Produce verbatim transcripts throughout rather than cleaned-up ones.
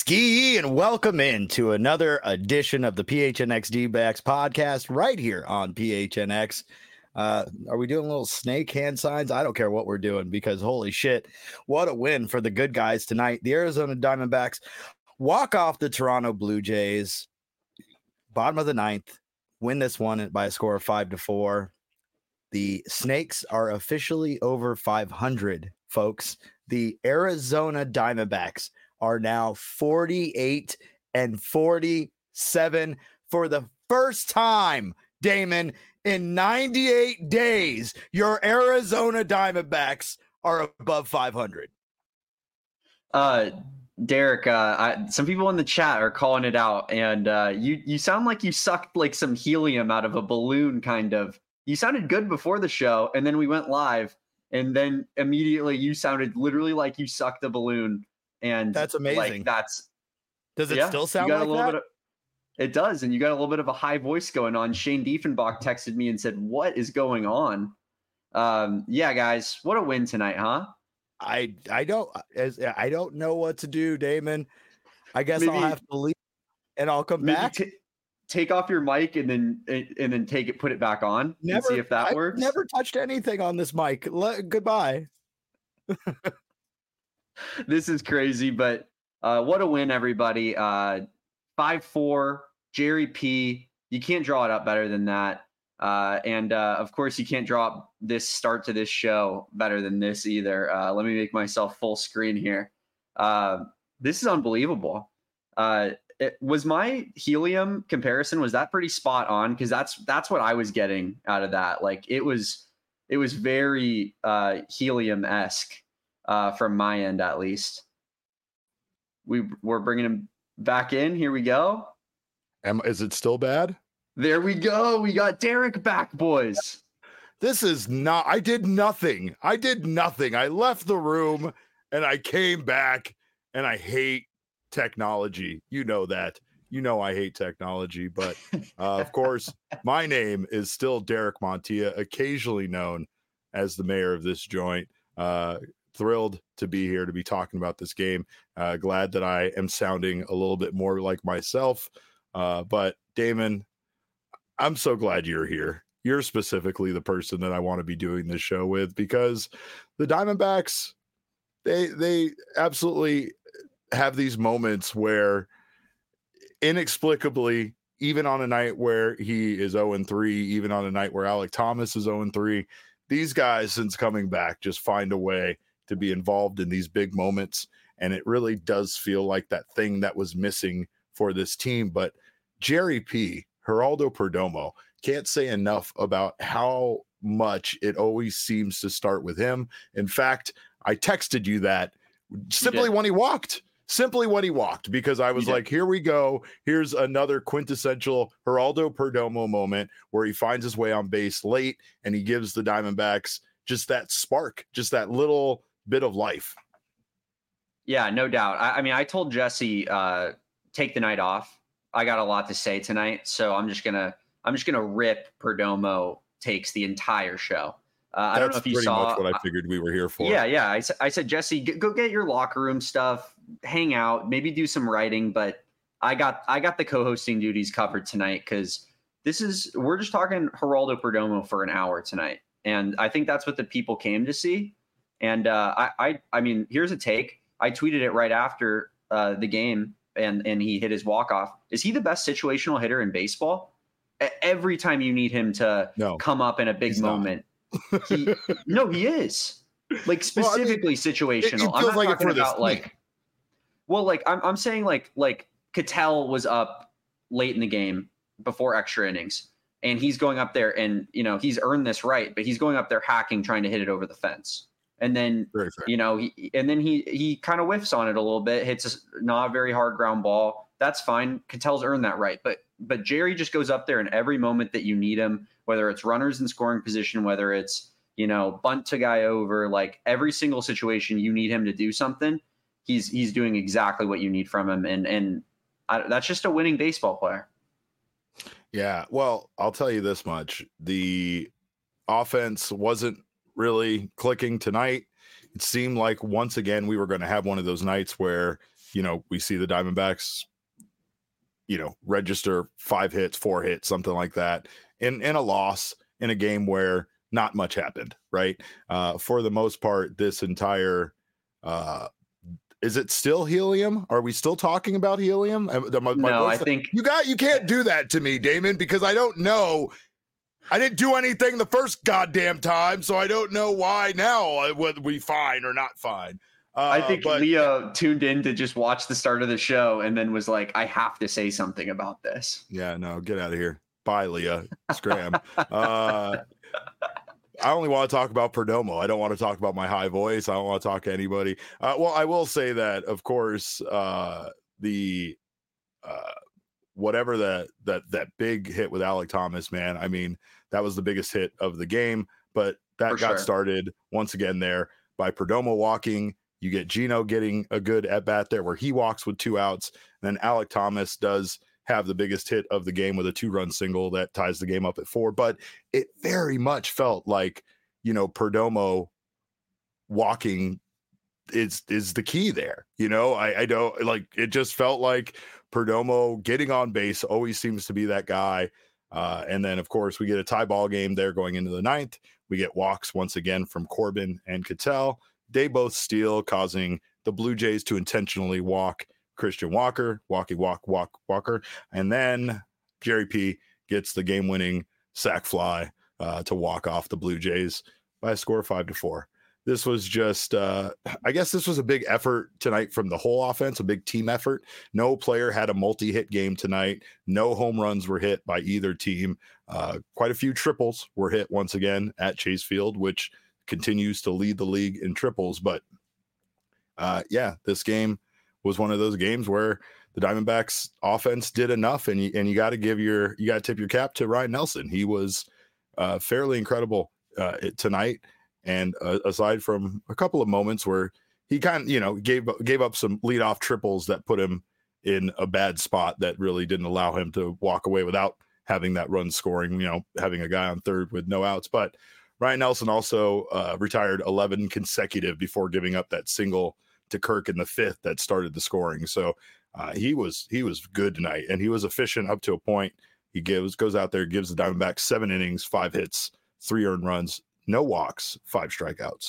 Ski and welcome in to another edition of the P H N X D-backs podcast right here on P H N X. Uh, are we doing little snake hand signs? I don't care what we're doing because holy shit, what a win for the good guys tonight. The Arizona Diamondbacks walk off the Toronto Blue Jays, bottom of the ninth, win this one by a score of five to four. The Snakes are officially over five hundred, folks. The Arizona Diamondbacks are now forty-eight and forty-seven for the first time, Damon, in ninety-eight days. Your Arizona Diamondbacks are above five hundred. Uh, Derek, uh, I, some people in the chat are calling it out, and uh, you you sound like you sucked like some helium out of a balloon, kind of. You sounded good before the show, and then we went live, and then immediately you sounded literally like you sucked a balloon. And that's amazing. Like, that's does it yeah, still sound you got like a little that? Bit of, it does, and you got a little bit of a high voice going on. Shane Diefenbach texted me and said, "What is going on?" Um, yeah, guys, what a win tonight, huh? I I don't as I don't know what to do, Damon. I guess maybe, I'll have to leave and I'll come back. T- take off your mic and then and then take it, put it back on. Never, and see if that I've works. Never touched anything on this mic. Le- goodbye. This is crazy, but uh, what a win, everybody. Uh, five four, Jerry P. You can't draw it up better than that. Uh, and, uh, of course, you can't draw up this start to this show better than this either. Uh, let me make myself full screen here. Uh, this is unbelievable. Uh, it, was my helium comparison, was that pretty spot on? Because that's that's what I was getting out of that. Like, it was, it was very uh, helium-esque. Uh, from my end, at least. We, we're bringing him back in. Here we go. Am, is it still bad? There we go. We got Derek back, boys. This is not, I did nothing. I did nothing. I left the room and I came back, and I hate technology. You know that. You know I hate technology, but uh, of course, my name is still Derek Montilla, occasionally known as the mayor of this joint. Uh, Thrilled to be here to be talking about this game. Uh, glad that I am sounding a little bit more like myself. Uh, but Damon, I'm so glad you're here. You're specifically the person that I want to be doing this show with, because the Diamondbacks, they they absolutely have these moments where inexplicably, even on a night where he is oh and three, even on a night where Alek Thomas is oh and three, these guys, since coming back, just find a way to be involved in these big moments. And it really does feel like that thing that was missing for this team. But Jerry P, Geraldo Perdomo, can't say enough about how much it always seems to start with him. In fact, I texted you that simply when he walked, simply when he walked, because I was like, here we go. Here's another quintessential Geraldo Perdomo moment where he finds his way on base late and he gives the Diamondbacks just that spark, just that little bit of life. Yeah, no doubt. I, I mean, I told Jesse, uh, take the night off. I got a lot to say tonight, so I'm just gonna, I'm just gonna rip Perdomo takes the entire show. Uh, I don't know if you pretty saw. Much what I figured we were here for. Yeah, yeah. I, I said, Jesse, g- go get your locker room stuff, hang out, maybe do some writing. But I got, I got the co-hosting duties covered tonight, because this is, we're just talking Geraldo Perdomo for an hour tonight, and I think that's what the people came to see. And uh, I, I, I mean, here's a take. I tweeted it right after uh, the game, and and he hit his walk-off. Is he the best situational hitter in baseball? Every time you need him to no, come up in a big moment, he, no, he is. Like, specifically well, I mean, situational. It, it feels I'm not like talking it for about this like, team. well, like I'm I'm saying like like Ketel was up late in the game before extra innings, and he's going up there, and you know he's earned this right, but he's going up there hacking, trying to hit it over the fence. And then, you know, he, and then he, he kind of whiffs on it a little bit, hits a not a very hard ground ball. That's fine. Ketel's earned that right. But, but Jerry just goes up there in every moment that you need him, whether it's runners in scoring position, whether it's, you know, bunt to guy over, like every single situation you need him to do something. He's, he's doing exactly what you need from him. And, and I, that's just a winning baseball player. Yeah. Well, I'll tell you this much. The offense wasn't really clicking tonight. It seemed like once again we were going to have one of those nights where you know, we see the Diamondbacks, you know, register five hits, four hits, something like that in, in a loss in a game where not much happened, right? Uh, for the most part, this entire, uh, is it still helium? Are we still talking about helium? My, my no, voice, I think you got, you can't do that to me, Damon, because I don't know. I didn't do anything the first goddamn time, so I don't know why now, whether we fine or not fine. Uh, I think but, Leo tuned in to just watch the start of the show and then was like, I have to say something about this. Yeah, no, get out of here. Bye, Leah. Scram. uh, I only want to talk about Perdomo. I don't want to talk about my high voice. I don't want to talk to anybody. Uh, well, I will say that, of course, uh, the uh, whatever that that that big hit with Alek Thomas, man. I mean, that was the biggest hit of the game, but that For got sure. started once again there by Perdomo walking. You get Gino getting a good at bat there where he walks with two outs. And then Alek Thomas does have the biggest hit of the game with a two run single that ties the game up at four. But it very much felt like, you know, Perdomo walking is, is the key there. You know, I, I don't like, it just felt like Perdomo getting on base always seems to be that guy. Uh, and then, of course, we get a tie ball game there going into the ninth. We get walks once again from Corbin and Ketel. They both steal, causing the Blue Jays to intentionally walk Christian Walker, walkie walk, walk, Walker. And then Jerry P gets the game-winning sac fly uh, to walk off the Blue Jays by a score of five to four. This was just, uh, I guess this was a big effort tonight from the whole offense, a big team effort. No player had a multi-hit game tonight. No home runs were hit by either team. Uh, quite a few triples were hit once again at Chase Field, which continues to lead the league in triples. But uh, yeah, this game was one of those games where the Diamondbacks offense did enough, and you, and you got to give your, you got to tip your cap to Ryan Nelson. He was uh, fairly incredible uh, tonight. And uh, aside from a couple of moments where he kind of, you know, gave, gave up some leadoff triples that put him in a bad spot that really didn't allow him to walk away without having that run scoring, you know, having a guy on third with no outs. But Ryan Nelson also uh, retired eleven consecutive before giving up that single to Kirk in the fifth that started the scoring. So uh, he was he was good tonight, and he was efficient up to a point. He gives goes out there, gives the Diamondbacks seven innings, five hits, three earned runs, no walks, five strikeouts.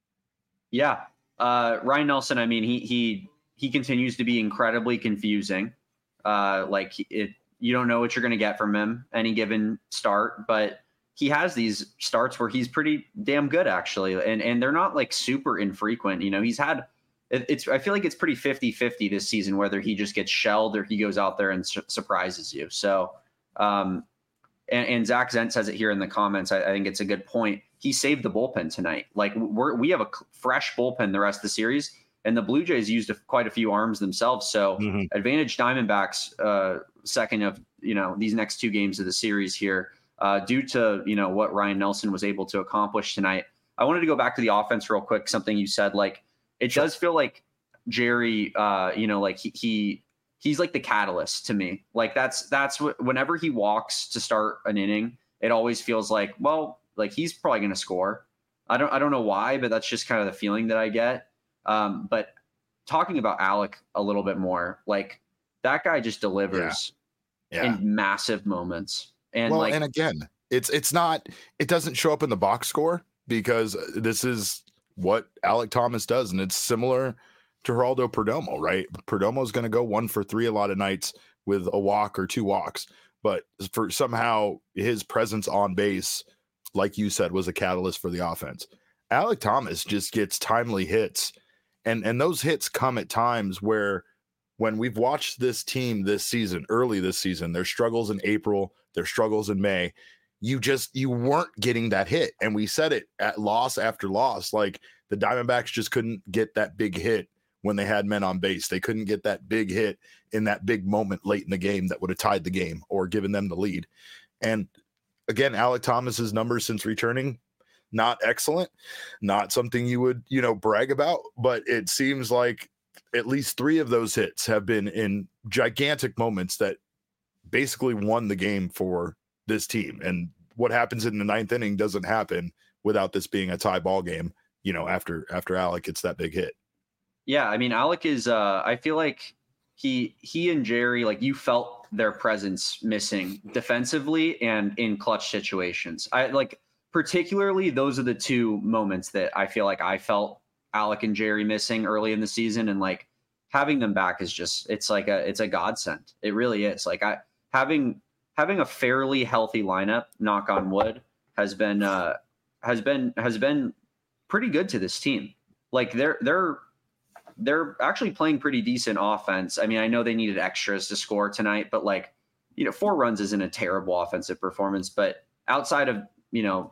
Yeah, uh, Ryan Nelson. I mean, he he he continues to be incredibly confusing. Uh, like it, you don't know what you're going to get from him any given start, but he has these starts where he's pretty damn good actually. And, and they're not like super infrequent. You know, he's had, it, it's, I feel like it's pretty fifty fifty this season, whether he just gets shelled or he goes out there and su- surprises you. So, um, and, and Zach Zent says it here in the comments. I, I think it's a good point. He saved the bullpen tonight. Like we're, we have a fresh bullpen the rest of the series, and the Blue Jays used a, quite a few arms themselves. So mm-hmm. advantage Diamondbacks, uh, second of, you know, these next two games of the series here. Uh, due to, you know, what Ryan Nelson was able to accomplish tonight. I wanted to go back to the offense real quick. Something you said, like, it sure. does feel like Jerry, uh, you know, like he, he, he's like the catalyst to me. Like that's, that's what, whenever he walks to start an inning, it always feels like, well, like he's probably going to score. I don't, I don't know why, but that's just kind of the feeling that I get. Um, but talking about Alek a little bit more, like that guy just delivers yeah. Yeah. in massive moments. And well, like, and again, it's it's not, it doesn't show up in the box score because this is what Alek Thomas does, and it's similar to Geraldo Perdomo, right? Perdomo is going to go one for three a lot of nights with a walk or two walks, but for somehow his presence on base, like you said, was a catalyst for the offense. Alek Thomas just gets timely hits, and and those hits come at times where, when we've watched this team this season, early this season, their struggles in April, their struggles in May, you just, you weren't getting that hit. And we said it at loss after loss, like the Diamondbacks just couldn't get that big hit when they had men on base. They couldn't get that big hit in that big moment late in the game that would have tied the game or given them the lead. And again, Alek Thomas's numbers since returning, not excellent, not something you would, you know, brag about, but it seems like at least three of those hits have been in gigantic moments that basically won the game for this team. And what happens in the ninth inning doesn't happen without this being a tie ball game, you know, after, after Alek gets that big hit. Yeah, I mean, Alec is. Uh, I feel like he he and Jerry, like you felt their presence missing defensively and in clutch situations. I like particularly those are the two moments that I feel like I felt Alec and Jerry missing early in the season, and like having them back is just it's like a it's a godsend. It really is. Like I having having a fairly healthy lineup, knock on wood, has been uh, has been has been pretty good to this team. Like they're they're they're actually playing pretty decent offense. I mean, I know they needed extras to score tonight, but like, you know, four runs isn't a terrible offensive performance. But outside of, you know,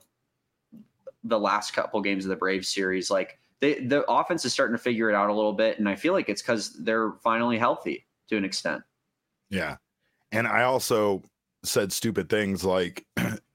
the last couple games of the Braves series, like they, the offense is starting to figure it out a little bit. And I feel like it's because they're finally healthy to an extent. Yeah. And I also said stupid things like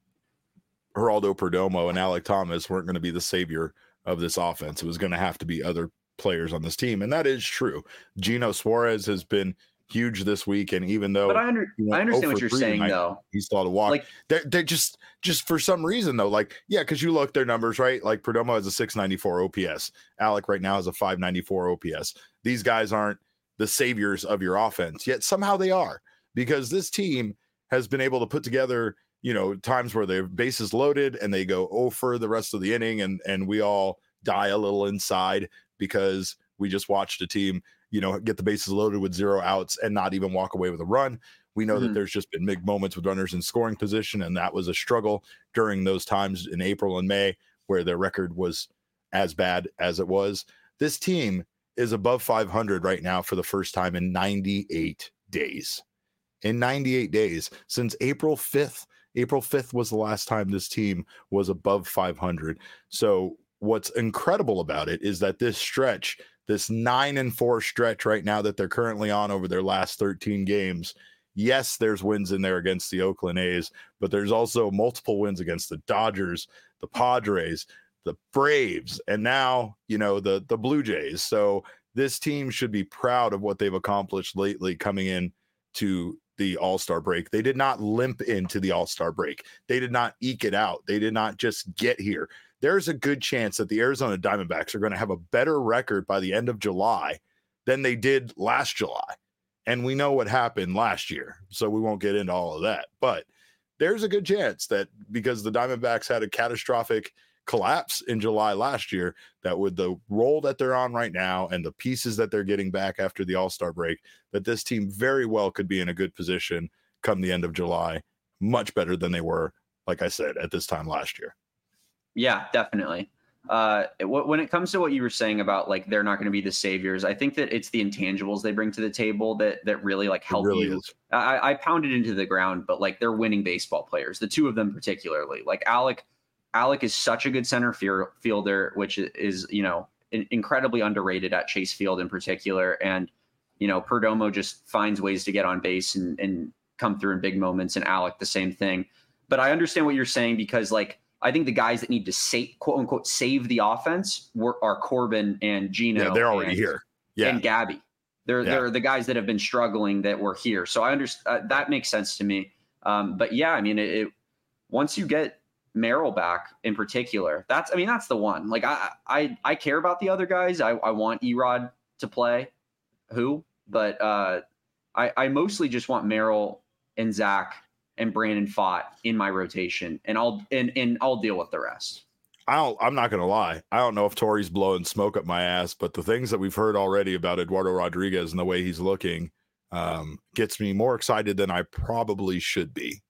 Geraldo Perdomo and Alec Thomas weren't going to be the savior of this offense. It was going to have to be other players on this team, and that is true. Gino Suarez has been huge this week, and even though but I, under, I understand what you're saying tonight, though he's thought to walk like they're, they're just just for some reason though, like yeah, because you look their numbers, right? Like Perdomo has a six ninety-four O P S, Alec right now has a five ninety-four O P S. These guys aren't the saviors of your offense, yet somehow they are, because this team has been able to put together, you know, times where their bases loaded and they go oh for the rest of the inning, and and we all die a little inside because we just watched a team, you know, get the bases loaded with zero outs and not even walk away with a run. We know mm-hmm. that there's just been big moments with runners in scoring position, and that was a struggle during those times in April and May where their record was as bad as it was. This team is above five hundred right now for the first time in ninety-eight days. In ninety-eight days, since April fifth. April fifth was the last time this team was above five hundred. So what's incredible about it is that this stretch, this nine and four stretch right now that they're currently on over their last thirteen games, yes, there's wins in there against the Oakland A's, but there's also multiple wins against the Dodgers, the Padres, the Braves, and now, you know, the, the Blue Jays. So this team should be proud of what they've accomplished lately coming in to the All-Star break. They did not limp into the All-Star break. They did not eke it out. They did not just get here. There's a good chance that the Arizona Diamondbacks are going to have a better record by the end of July than they did last July. And we know what happened last year, so we won't get into all of that. But there's a good chance that because the Diamondbacks had a catastrophic collapse in July last year, that with the role that they're on right now and the pieces that they're getting back after the All-Star break, that this team very well could be in a good position come the end of July, much better than they were, like I said, at this time last year. Yeah, definitely. Uh, when it comes to what you were saying about like they're not going to be the saviors, I think that it's the intangibles they bring to the table that that really like help really you. Is. I, I pounded into the ground, but like they're winning baseball players, the two of them particularly. Like Alec, Alec is such a good center fielder, which is, you know, incredibly underrated at Chase Field in particular. And, you know, Perdomo just finds ways to get on base and, and come through in big moments, and Alec the same thing. But I understand what you're saying, because like I think the guys that need to save, quote unquote, save the offense were, are Corbin and Gino. Yeah, they're already and, here. Yeah. And Gabby. They're, yeah. they're the guys that have been struggling that were here. So I understand uh, that makes sense to me. Um, but yeah, I mean, it, it once you get Merrill back in particular, that's, I mean, that's the one. Like I, I, I care about the other guys. I, I want Erod to play who, but uh, I, I mostly just want Merrill and Zach and Brandon Pfaadt in my rotation, and I'll and, and I'll deal with the rest. I don't, I'm not going to lie. I don't know if Torey's blowing smoke up my ass, but the things that we've heard already about Eduardo Rodriguez and the way he's looking um, gets me more excited than I probably should be.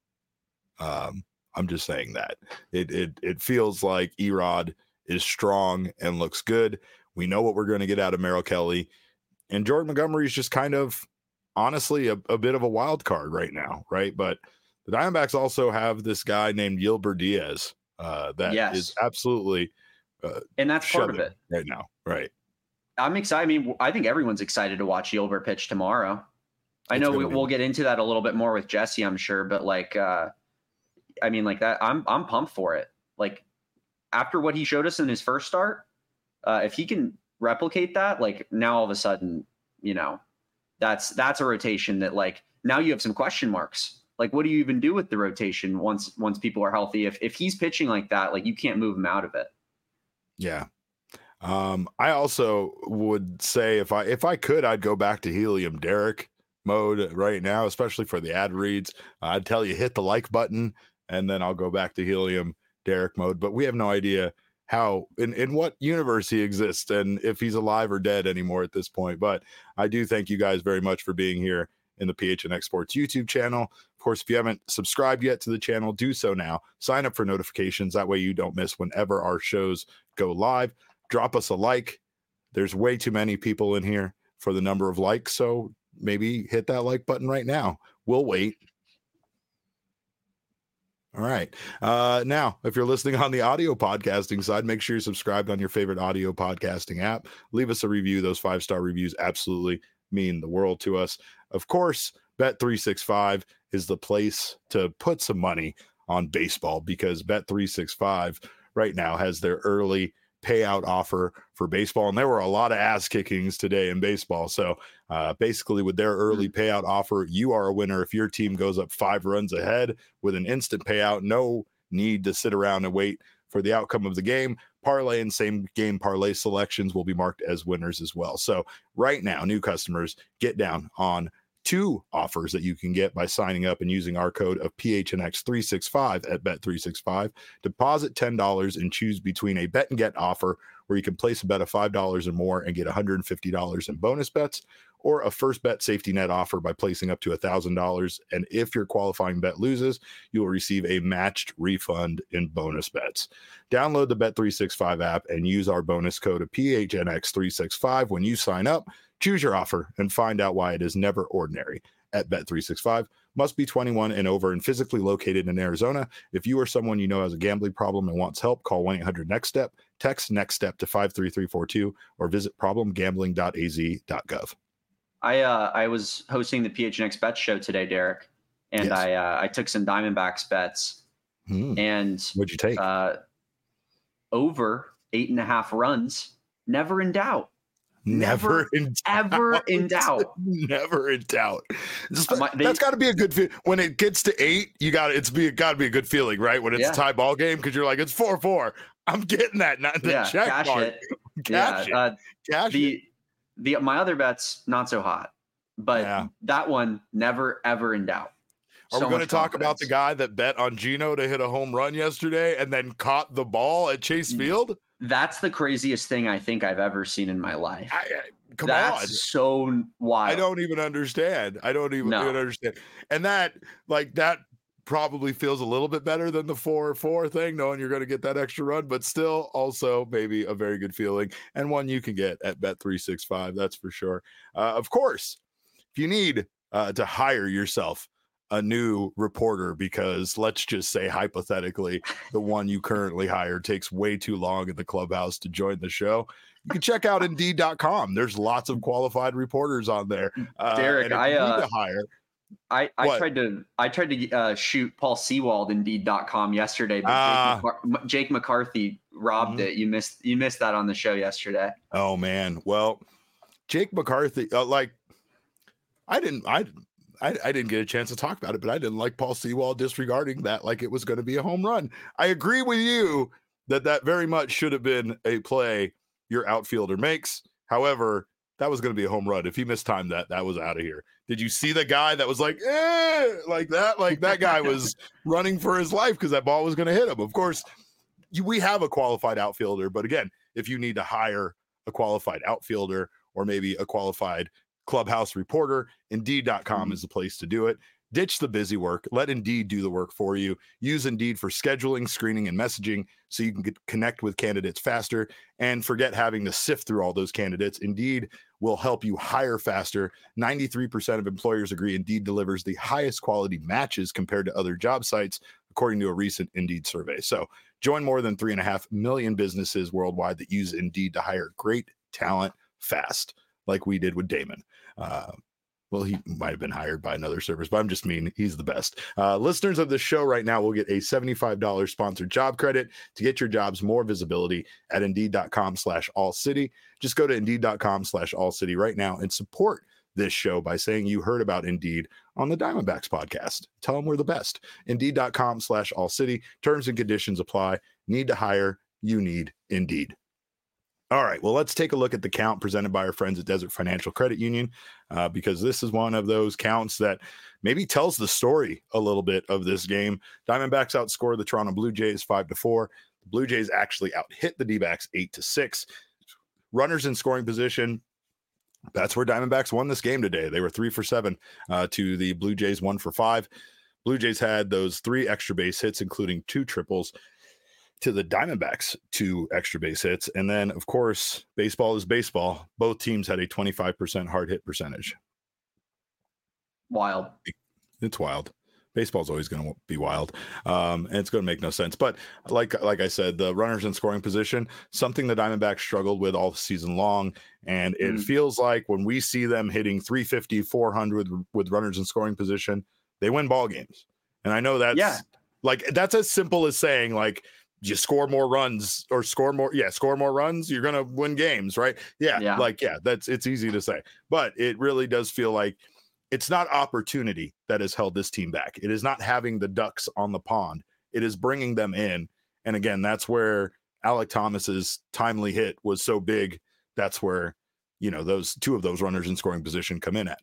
Um, I'm just saying that it it it feels like Erod is strong and looks good. We know what we're going to get out of Merrill Kelly, and Jordan Montgomery is just kind of honestly a, a bit of a wild card right now, right? But the Diamondbacks also have this guy named Yilber Diaz uh, that yes. is absolutely uh, and that's part of it right now, right? I'm excited. I mean, I think everyone's excited to watch Yilber pitch tomorrow. I it's know we, we'll get into that a little bit more with Jesse, I'm sure, but like, uh, I mean, like that, I'm I'm pumped for it. Like after what he showed us in his first start, uh, if he can replicate that, like now all of a sudden, you know, that's that's a rotation that like now you have some question marks. Like, what do you even do with the rotation once once people are healthy? If if he's pitching like that, like you can't move him out of it. Yeah, Um, I also would say if I if I could, I'd go back to Helium Derek mode right now, especially for the ad reads. I'd tell you hit the like button, and then I'll go back to Helium Derek mode. But we have no idea how in, in what universe he exists and if he's alive or dead anymore at this point. But I do thank you guys very much for being here in the P H N X Sports YouTube channel. Of course, if you haven't subscribed yet to the channel, do so now. Sign up for notifications. That way you don't miss whenever our shows go live. Drop us a like. There's way too many people in here for the number of likes, so maybe hit that like button right now. We'll wait. All right. Uh, now, if you're listening on the audio podcasting side, make sure you're subscribed on your favorite audio podcasting app. Leave us a review. Those five-star reviews absolutely mean the world to us. Of course, Bet three sixty-five is the place to put some money on baseball because Bet three sixty-five right now has their early payout offer for baseball. And there were a lot of ass kickings today in baseball. So uh, basically with their early payout offer, you are a winner if your team goes up five runs ahead with an instant payout. No need to sit around and wait for the outcome of the game. Parlay and same game parlay selections will be marked as winners as well. So right now, new customers get down on two offers that you can get by signing up and using our code of P H N X three sixty-five at Bet three sixty-five. Deposit ten dollars and choose between a bet and get offer where you can place a bet of five dollars or more and get one hundred fifty dollars in bonus bets, or a first bet safety net offer by placing up to one thousand dollars. And if your qualifying bet loses, you will receive a matched refund in bonus bets. Download the Bet three sixty-five app and use our bonus code of P H N X three sixty-five when you sign up. Choose your offer and find out why it is never ordinary at Bet three sixty-five. Must be twenty-one and over and physically located in Arizona. If you or someone you know has a gambling problem and wants help, call one eight hundred next step, text NEXTSTEP to five three three four two, or visit problem gambling dot a z dot gov. I uh, I was hosting the P H N X Bet show today, Derek, and Yes. I uh, I took some Diamondbacks bets, Hmm. and What'd you take? uh, over eight and a half runs, never in doubt. Never in Ever in doubt. Never in doubt. Just- My- they- that's got to be a good feel. When it gets to eight, you got it's be got to be a good feeling, right? When it's Yeah. a tie ball game, because you're like it's four four. I'm getting that, not the Yeah, check cash mark. it. Cash yeah, uh, it. Cash it. the the my other bets not so hot, but Yeah. that one never ever in doubt. Are So we going to much talk about the confidence. guy that bet on Gino to hit a home run yesterday and then caught the ball at Chase Mm. Field? That's the craziest thing I think I've ever seen in my life. I, I, come That's on. so wild. I don't even understand. I don't even, No. even understand. And that, like, that probably feels a little bit better than the four four thing, knowing you're going to get that extra run, but still also maybe a very good feeling and one you can get at Bet three sixty-five. That's for sure. Uh, of course, if you need uh, to hire yourself a new reporter, because let's just say hypothetically, the one you currently hire takes way too long in the clubhouse to join the show, you can check out Indeed dot com. There's lots of qualified reporters on there. Uh, Derek, and if I, you need uh, to hire. I, I What? tried to I tried to uh, shoot Paul Sewald Indeed dot com yesterday, but Ah. Jake, McCar- Jake McCarthy robbed Mhm. it. You missed you missed that on the show yesterday. Oh man, well, Jake McCarthy, uh, like, I didn't, I, I, I didn't get a chance to talk about it, but I didn't like Paul Sewald disregarding that like it was going to be a home run. I agree with you that that very much should have been a play your outfielder makes. However, that was going to be a home run. If he mistimed that, that was out of here. Did you see the guy that was like, eh, like that? Like that guy was running for his life because that ball was going to hit him. Of course, you, we have a qualified outfielder, but again, if you need to hire a qualified outfielder or maybe a qualified clubhouse reporter, Indeed dot com Mhm. is the place to do it. Ditch the busy work. Let Indeed do the work for you. Use Indeed for scheduling, screening, and messaging so you can get, connect with candidates faster and forget having to sift through all those candidates. Indeed will help you hire faster. ninety-three percent of employers agree Indeed delivers the highest quality matches compared to other job sites, according to a recent Indeed survey. So join more than three and a half million businesses worldwide that use Indeed to hire great talent fast, like we did with Damon. Uh, well, he might have been hired by another service, but I'm just mean he's the best. Uh, listeners of this show right now will get a seventy-five dollars sponsored job credit to get your jobs more visibility at Indeed dot com slash all city. Just go to Indeed dot com slash all city right now and support this show by saying you heard about Indeed on the Diamondbacks podcast. Tell them we're the best. Indeed dot com slash all city. Terms and conditions apply. Need to hire. You need Indeed. All right, well, let's take a look at the count presented by our friends at Desert Financial Credit Union, uh, because this is one of those counts that maybe tells the story a little bit of this game. Diamondbacks outscored the Toronto Blue Jays five to four. The Blue Jays actually out-hit the D-backs eight to six. Runners in scoring position. That's where Diamondbacks won this game today. They were three for seven uh, to the Blue Jays, one for five. Blue Jays had those three extra base hits, including two triples, to the Diamondbacks, two extra base hits. And then, of course, baseball is baseball. Both teams had a twenty-five percent hard hit percentage. Wild. It's wild. Baseball's always going to be wild. Um, and it's going to make no sense. But like like I said, the runners in scoring position, something the Diamondbacks struggled with all season long. And it mm. feels like when we see them hitting three fifty, four hundred with runners in scoring position, they win ball games. And I know that's yeah. like, that's as simple as saying, like, you score more runs or score more. Yeah. Score more runs. You're going to win games, right? Yeah, yeah. Like, yeah, that's, it's easy to say, but it really does feel like it's not opportunity that has held this team back. It is not having the ducks on the pond. It is bringing them in. And again, that's where Alek Thomas's timely hit was so big. That's where, you know, those two of those runners in scoring position come in at.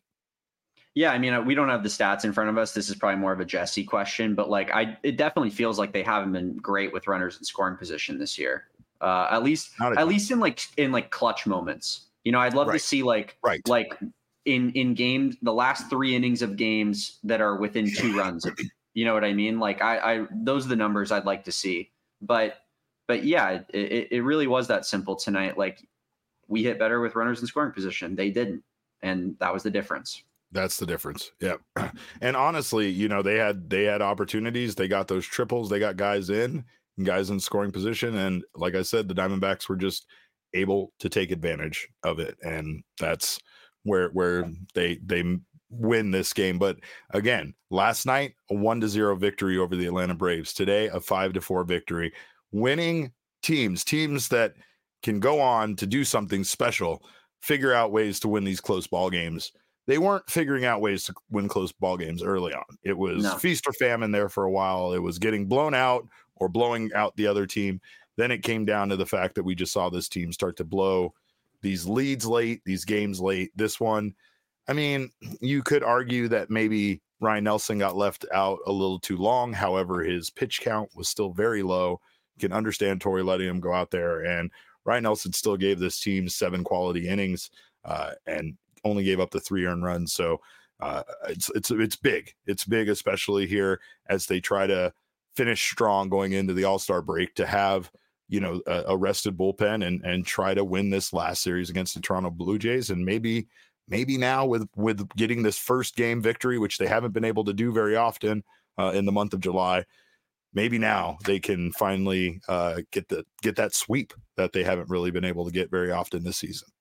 Yeah, I mean, we don't have the stats in front of us. This is probably more of a Jesse question, but like, I, it definitely feels like they haven't been great with runners in scoring position this year. Uh, at least, at least in like in like clutch moments. You know, I'd love right. to see like, right. like in in games, the last three innings of games that are within two runs. You know what I mean? Like, I, I those are the numbers I'd like to see. But, but yeah, it, it really was that simple tonight. Like, we hit better with runners in scoring position. They didn't, and that was the difference. That's the difference. Yeah. And honestly, you know, they had they had opportunities. They got those triples. They got guys in, guys in scoring position. And like I said, the Diamondbacks were just able to take advantage of it. And that's where where they they win this game. But again, last night, a one to zero victory over the Atlanta Braves. Today, a five to four victory. Winning teams, teams that can go on to do something special, figure out ways to win these close ball games. They weren't figuring out ways to win close ball games early on. It was no. feast or famine there for a while. It was getting blown out or blowing out the other team. Then it came down to the fact that we just saw this team start to blow these leads late, these games late. This one, I mean, you could argue that maybe Ryan Nelson got left out a little too long. However, his pitch count was still very low. You can understand Torey letting him go out there, and Ryan Nelson still gave this team seven quality innings uh, and only gave up the three earned runs. So uh, it's it's it's big. It's big, especially here as they try to finish strong going into the All-Star break, to have, you know, a, a rested bullpen and and try to win this last series against the Toronto Blue Jays. And maybe maybe now with with getting this first game victory, which they haven't been able to do very often uh, in the month of July, maybe now they can finally uh, get the get that sweep that they haven't really been able to get very often this season.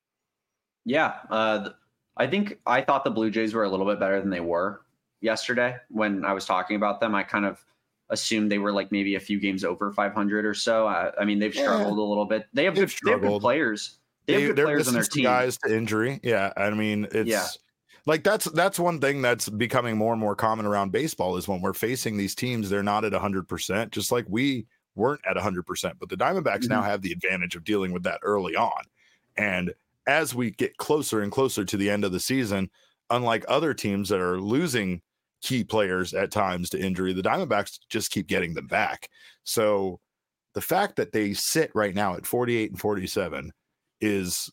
Yeah, uh, I think I thought the Blue Jays were a little bit better than they were yesterday. When I was talking about them, I kind of assumed they were like maybe a few games over five hundred or so. I, I mean, they've struggled yeah. a little bit. They have, good, they have good players. They, they have good players on their team. Guys to injury. Yeah, I mean, it's yeah. like that's that's one thing that's becoming more and more common around baseball is when we're facing these teams, they're not at one hundred percent, just like we weren't at one hundred percent. But the Diamondbacks mm-hmm. now have the advantage of dealing with that early on. And as we get closer and closer to the end of the season, unlike other teams that are losing key players at times to injury, the Diamondbacks just keep getting them back. So the fact that they sit right now at forty-eight and forty-seven is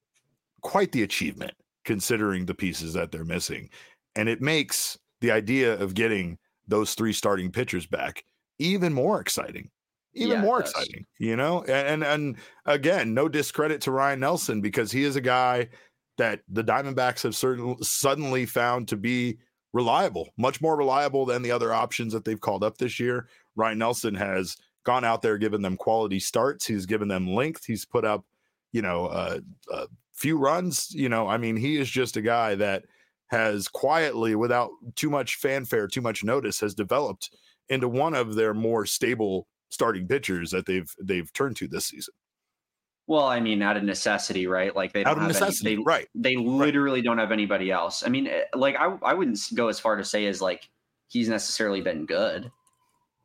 quite the achievement considering the pieces that they're missing. And it makes the idea of getting those three starting pitchers back even more exciting. Even yeah, more exciting, you know, and, and and again, no discredit to Ryan Nelson, because he is a guy that the Diamondbacks have certainly suddenly found to be reliable, much more reliable than the other options that they've called up this year. Ryan Nelson has gone out there, given them quality starts. He's given them length. He's put up, you know, uh, a few runs. You know, I mean, he is just a guy that has quietly, without too much fanfare, too much notice, has developed into one of their more stable starting pitchers that they've they've turned to this season. Well, I mean, out of necessity, right? Like they don't out of have necessity, any, they, right? They literally right. don't have anybody else. I mean, like I I wouldn't go as far to say as like he's necessarily been good.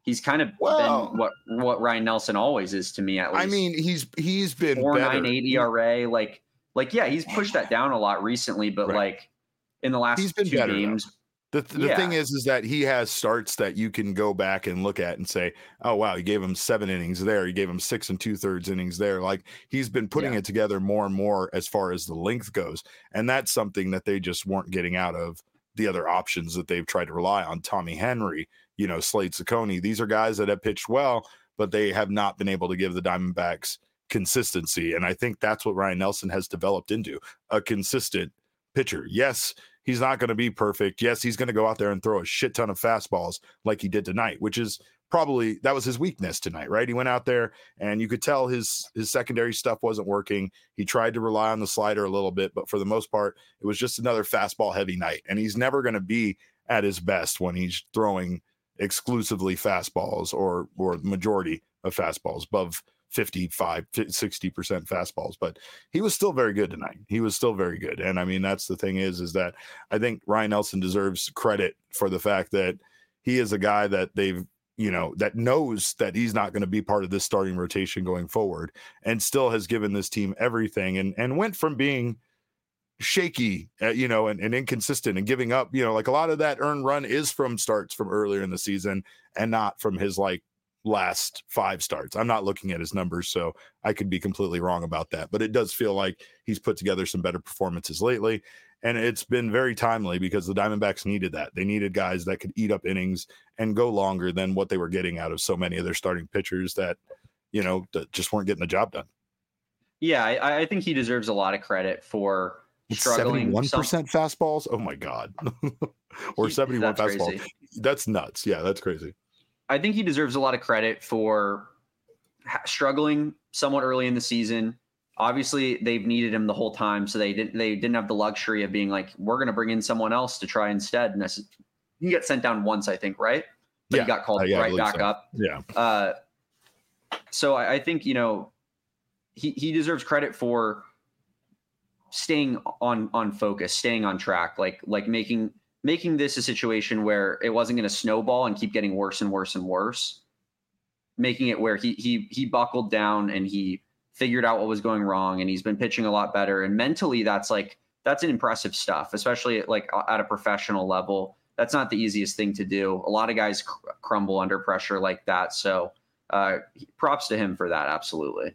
he's kind of Well, been what what Ryan Nelson always is to me, at least. I mean, he's he's been four better. nine eight E R A, like like yeah, he's pushed that down a lot recently, but Right. like in the last He's been two better, games. though. The, the Yeah. thing is, is that he has starts that you can go back and look at and say, oh, wow, you gave him seven innings there. You gave him six and two thirds innings there. Like he's been putting Yeah. it together more and more as far as the length goes. And that's something that they just weren't getting out of the other options that they've tried to rely on. Tommy Henry, you know, Slade Ciccone. These are guys that have pitched well, but they have not been able to give the Diamondbacks consistency. And I think that's what Ryan Nelson has developed into, a consistent pitcher. Yes, he's not going to be perfect. Yes, he's going to go out there and throw a shit ton of fastballs like he did tonight, which is probably that was his weakness tonight, right? He went out there and you could tell his his secondary stuff wasn't working. He tried to rely on the slider a little bit, but for the most part, it was just another fastball heavy night. And he's never going to be at his best when he's throwing exclusively fastballs or or majority of fastballs above fifty-five, sixty percent fastballs, but he was still very good tonight. He was still very good. And I mean, that's the thing is, is that I think Ryan Nelson deserves credit for the fact that he is a guy that they've, you know, that knows that he's not going to be part of this starting rotation going forward and still has given this team everything and, and went from being shaky, uh, you know, and, and inconsistent and giving up, you know, like a lot of that earned run is from starts from earlier in the season and not from his like last five starts. I'm not looking at his numbers, so I could be completely wrong about that, but it does feel like he's put together some better performances lately, and it's been very timely because the Diamondbacks needed that. They needed guys that could eat up innings and go longer than what they were getting out of so many of their starting pitchers that, you know, that just weren't getting the job done. Yeah, I, I think he deserves a lot of credit for struggling. seventy-one percent some... fastballs? Oh my God. Or he, seventy-one fastballs. Crazy. That's nuts. Yeah, that's crazy. I think he deserves a lot of credit for ha- struggling somewhat early in the season. Obviously, they've needed him the whole time, so they didn't they didn't have the luxury of being like, we're going to bring in someone else to try instead. And that's, he got sent down once, I think, right? But yeah. he got called uh, yeah, right back so. up. Yeah. Uh, so I, I think, you know, he, he deserves credit for staying on on focus, staying on track, like like making – making this a situation where it wasn't going to snowball and keep getting worse and worse and worse, making it where he he he buckled down and he figured out what was going wrong, and he's been pitching a lot better. And mentally, that's like that's an impressive stuff, especially at, like at a professional level. That's not the easiest thing to do. A lot of guys cr- crumble under pressure like that. So uh, props to him for that. Absolutely.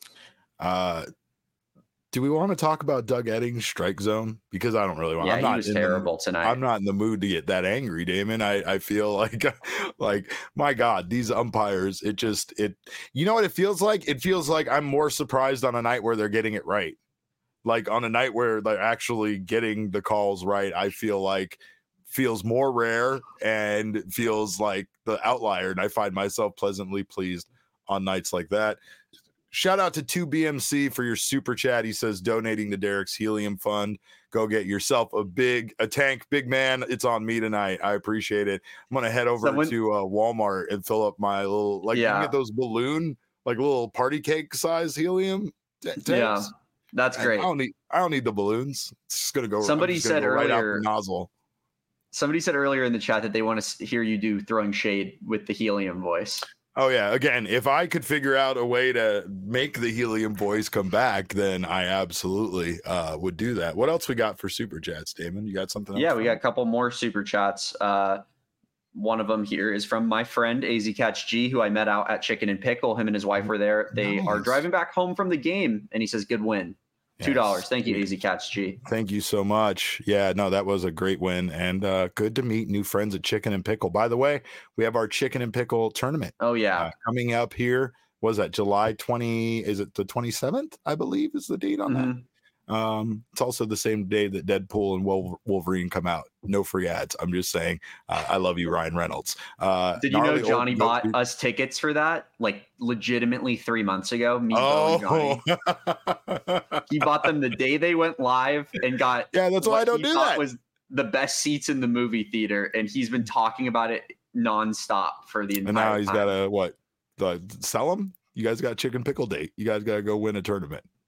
Uh, Do we want to talk about Doug Eddings' strike zone? Because I don't really want. Yeah, I'm he not was in terrible the, tonight. I'm not in the mood to get that angry, Damon. I, I feel like, like my God, these umpires. It just it. You know what it feels like? It feels like I'm more surprised on a night where they're getting it right. Like on a night where they're actually getting the calls right. I feel like feels more rare and feels like the outlier, and I find myself pleasantly pleased on nights like that. Shout out to two B M C for your super chat. He says donating to Derek's Helium Fund. Go get yourself a big a tank, big man. It's on me tonight. I appreciate it. I'm gonna head over Someone, to uh, Walmart and fill up my little like yeah. You can get those balloon like little party cake size helium t- tanks. Yeah, that's great. I don't need I don't need the balloons. It's just gonna go. Somebody just said go earlier right out the nozzle. Somebody said earlier in the chat that they want to hear you do throwing shade with the helium voice. Oh, yeah. Again, if I could figure out a way to make the helium voice come back, then I absolutely uh, would do that. What else we got for super chats, Damon? You got something else? Yeah, we got a couple more super chats. Uh, one of them here is from my friend A Z Catch G, who I met out at Chicken and Pickle. Him and his wife were there. They nice. are driving back home from the game, and he says, good win. two dollars. Yes. Thank you, A Z Catch G. Thank you so much. Yeah, no, that was a great win, and uh, good to meet new friends at Chicken and Pickle. By the way, we have our Chicken and Pickle tournament. Oh, yeah. Uh, coming up here. Was that July twentieth? Is it the twenty-seventh? I believe is the date on mm-hmm. that. Um, it's also the same day that Deadpool and Wolverine come out. No free ads. I'm just saying. Uh, I love you, Ryan Reynolds. Uh, Did you know Johnny bought dude. us tickets for that? Like legitimately three months ago. Me, oh, Bo, and Johnny. He bought them the day they went live and got. Yeah, that's why I don't do that. Was the best seats in the movie theater, and he's been talking about it nonstop for the entire. And now he's time. got to what? The, sell them. You guys got Chicken Pickle date. You guys got to go win a tournament.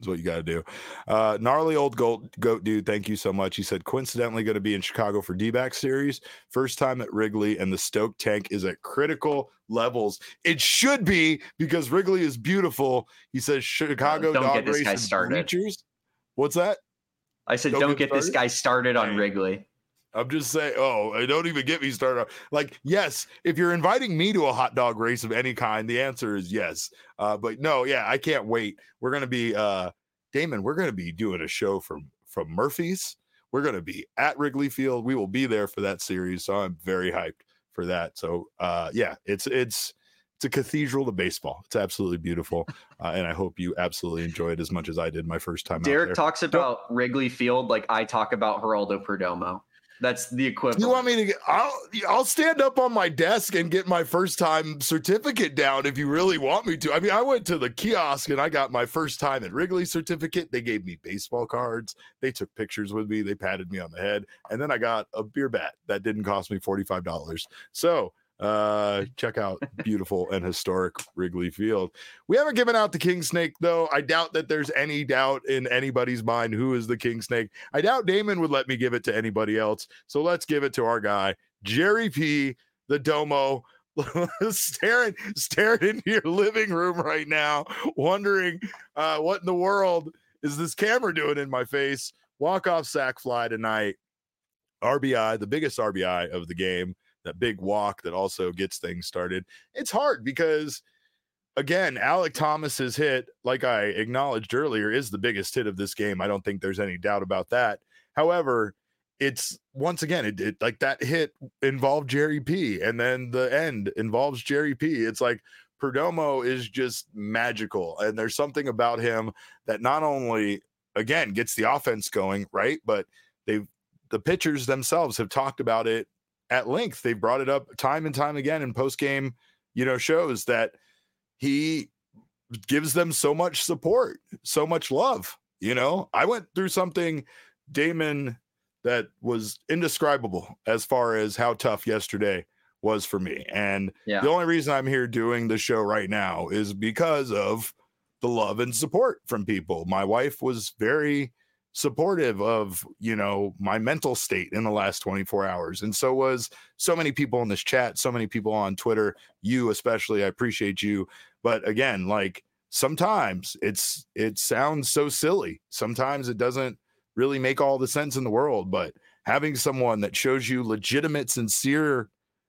is what you got to do. Uh, gnarly old goat, goat dude, thank you so much. He said, coincidentally going to be in Chicago for D-back series. First time at Wrigley, and the Stoke tank is at critical levels. It should be, because Wrigley is beautiful. He says Chicago uh, don't dog get this race guy started. Bleachers. What's that? I said, don't, don't get, get this guy started on Wrigley. I'm just saying, oh, don't even get me started. Like, yes, if you're inviting me to a hot dog race of any kind, the answer is yes. Uh, but no, yeah, I can't wait. We're going to be, uh, Damon, we're going to be doing a show from, from Murphy's. We're going to be at Wrigley Field. We will be there for that series. So I'm very hyped for that. So, uh, yeah, it's, it's, it's a cathedral to baseball. It's absolutely beautiful. Uh, and I hope you absolutely enjoy it as much as I did my first time Derek out there. talks about don't, Wrigley Field like I talk about Geraldo Perdomo. That's the equivalent. You want me to get, I'll, I'll stand up on my desk and get my first time certificate down if you really want me to. I mean, I went to the kiosk and I got my first time at Wrigley certificate. They gave me baseball cards. They took pictures with me. They patted me on the head. And then I got a beer bat that didn't cost me forty-five dollars. So uh, check out beautiful and historic Wrigley Field. We haven't given out the King Snake, though. I doubt that there's any doubt in anybody's mind who is the King Snake. I doubt Damon would let me give it to anybody else. So let's give it to our guy, Jerry P, the Domo, staring, staring into your living room right now, wondering uh, what in the world is this camera doing in my face. Walk-off sack fly tonight. R B I, the biggest R B I of the game. That big walk that also gets things started. It's hard because, again, Alek Thomas's hit, like I acknowledged earlier, is the biggest hit of this game. I don't think there's any doubt about that. However, it's once again, it, it like that hit involved Jerry P, and then the end involves Jerry P. It's like Perdomo is just magical, and there's something about him that not only, again, gets the offense going, right, but they've the pitchers themselves have talked about it at length. They've brought it up time and time again in post-game, you know, shows that he gives them so much support, so much love. You know, I went through something, Damon, that was indescribable as far as how tough yesterday was for me. And yeah. the only reason I'm here doing the show right now is because of the love and support from people. My wife was very supportive of, you know, my mental state in the last twenty-four hours. And so was so many people in this chat, so many people on Twitter, you especially. I appreciate you. But again, like sometimes it's, it sounds so silly. Sometimes it doesn't really make all the sense in the world, but having someone that shows you legitimate, sincere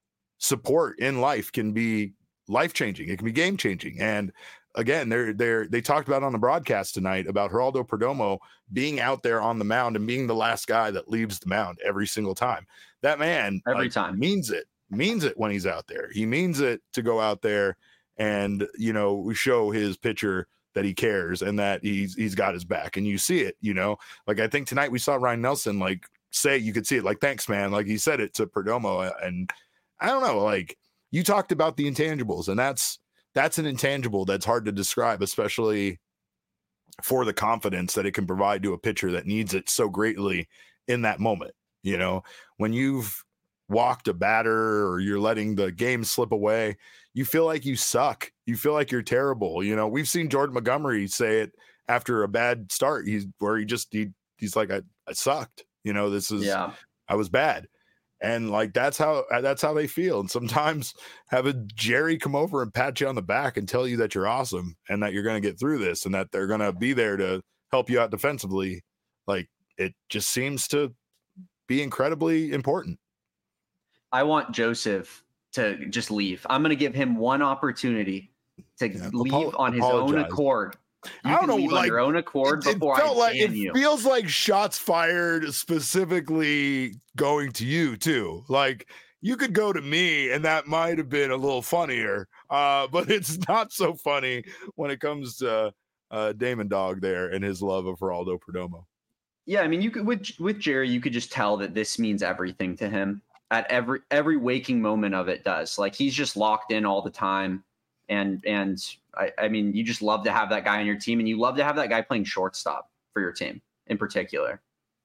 support in life can be life-changing. It can be game-changing. And again, they're they're they talked about on the broadcast tonight about Geraldo Perdomo being out there on the mound and being the last guy that leaves the mound every single time. That man every like, time means it, means it when he's out there. He means it to go out there and, you know, show his pitcher that he cares and that he's he's got his back. And you see it, you know, like I think tonight we saw Ryan Nelson like say, you could see it like, thanks, man. Like he said it to Perdomo. And I don't know, like you talked about the intangibles, and that's That's an intangible that's hard to describe, especially for the confidence that it can provide to a pitcher that needs it so greatly in that moment. You know, when you've walked a batter or you're letting the game slip away, you feel like you suck. You feel like you're terrible. You know, we've seen Jordan Montgomery say it after a bad start. He's where he just, he, he's like, I, I sucked. You know, this is, yeah. I was bad. And like, that's how, that's how they feel. And sometimes having Jerry come over and pat you on the back and tell you that you're awesome and that you're going to get through this and that they're going to be there to help you out defensively. Like it just seems to be incredibly important. I want Joseph to just leave. I'm going to give him one opportunity to yeah, leave apo- on his apologize. own accord. You I don't know, leave like on your own accord it, before it felt I like ban it you. feels like shots fired specifically going to you too. Like you could go to me and that might have been a little funnier, uh, but it's not so funny when it comes to uh, Damon Dog there and his love of Geraldo Perdomo. Yeah, I mean, you could with with Jerry, you could just tell that this means everything to him. At every every waking moment of it does. Like he's just locked in all the time. And, and I, I mean, you just love to have that guy on your team, and you love to have that guy playing shortstop for your team in particular.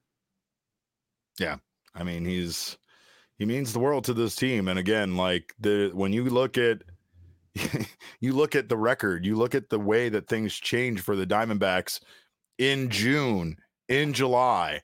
Yeah. I mean, he's, he means the world to this team. And again, like the, when you look at, you look at the record, you look at the way that things change for the Diamondbacks in June, in July.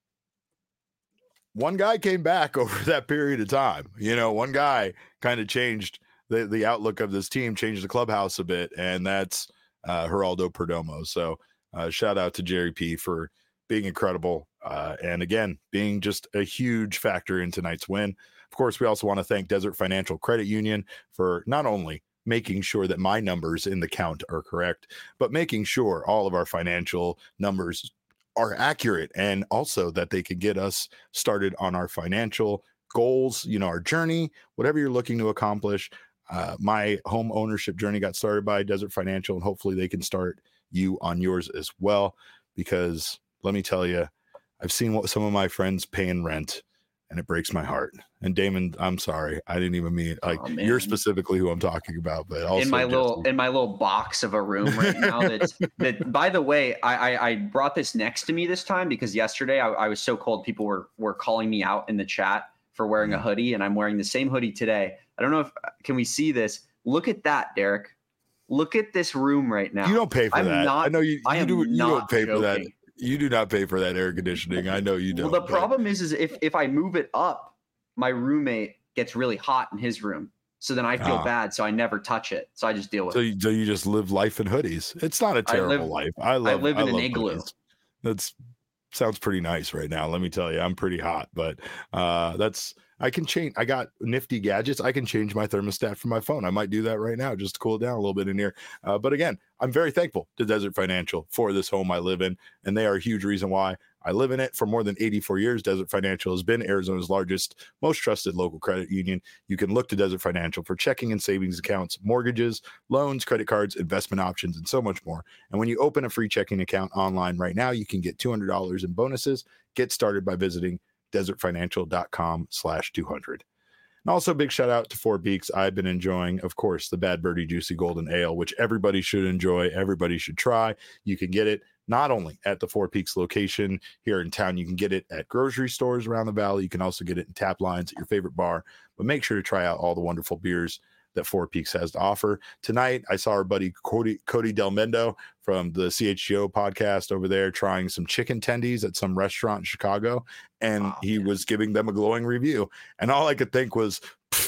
One guy came back over that period of time. You know, one guy kind of changed the, the outlook of this team, changed the clubhouse a bit, and that's uh, Geraldo Perdomo. So uh, shout out to Jerry P for being incredible. Uh, and again, being just a huge factor in tonight's win. Of course, we also want to thank Desert Financial Credit Union for not only making sure that my numbers in the count are correct, but making sure all of our financial numbers are accurate, and also that they can get us started on our financial goals, you know, our journey, whatever you're looking to accomplish. Uh, my home ownership journey got started by Desert Financial, and hopefully they can start you on yours as well. Because let me tell you, I've seen what some of my friends pay in rent, and it breaks my heart. And Damon, I'm sorry, I didn't even mean like oh, you're specifically who I'm talking about, but also in my Jesse. little in my little box of a room right now. That that by the way, I, I I brought this next to me this time because yesterday I, I was so cold. People were were calling me out in the chat for wearing a hoodie, and I'm wearing the same hoodie today. I don't know if can we see this? Look at that, Derek. Look at this room right now. You don't pay for I'm that. Not, I know you. You I am do. You not don't pay joking. for that. You do not pay for that air conditioning. I know you don't. Well, the but... problem is, is if if I move it up, my roommate gets really hot in his room. So then I feel ah. bad. So I never touch it. So I just deal with so it. You, so you just live life in hoodies. It's not a terrible I live, life. I love. I live in I an love igloo. Hoodies. That's sounds pretty nice right now. Let me tell you, I'm pretty hot, but uh, that's. I can change. I got nifty gadgets. I can change my thermostat from my phone. I might do that right now just to cool it down a little bit in here. Uh, but again, I'm very thankful to Desert Financial for this home I live in, and they are a huge reason why I live in it. For more than eighty-four years, Desert Financial has been Arizona's largest, most trusted local credit union. You can look to Desert Financial for checking and savings accounts, mortgages, loans, credit cards, investment options, and so much more. And when you open a free checking account online right now, you can get two hundred dollars in bonuses. Get started by visiting desertfinancial.com slash 200. And also big shout out to Four Peaks. I've been enjoying, of course, the Bad Birdie Juicy Golden Ale, which everybody should enjoy. Everybody should try. You can get it not only at the Four Peaks location here in town, you can get it at grocery stores around the valley. You can also get it in tap lines at your favorite bar, but make sure to try out all the wonderful beers that Four Peaks has to offer. Tonight, I saw our buddy Cody, Cody Del Mendo from the C H G O podcast over there trying some chicken tendies at some restaurant in Chicago, and oh, he man. was giving them a glowing review. And all I could think was,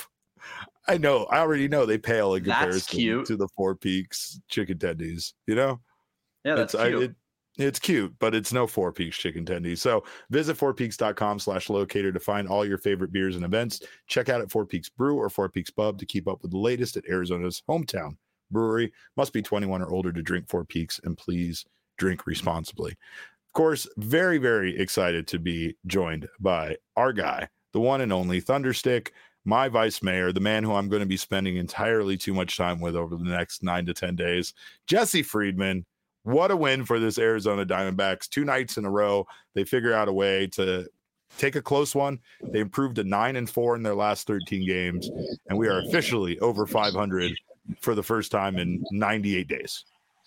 I know, I already know they pale in comparison to the Four Peaks chicken tendies, you know? Yeah, that's it's, cute. I, it, It's cute, but it's no Four Peaks chicken tendies. So visit fourpeaks.com slash locator to find all your favorite beers and events. Check out at Four Peaks Brew or Four Peaks Pub to keep up with the latest at Arizona's hometown brewery. Must be twenty-one or older to drink Four Peaks, and please drink responsibly. Of course, very, very excited to be joined by our guy, the one and only Thunderstick, my vice mayor, the man who I'm going to be spending entirely too much time with over the next nine to ten days, Jesse Friedman. What a win for this Arizona Diamondbacks. Two nights in a row, they figure out a way to take a close one. They improved to nine and four in their last thirteen games, and we are officially over five hundred for the first time in ninety-eight days.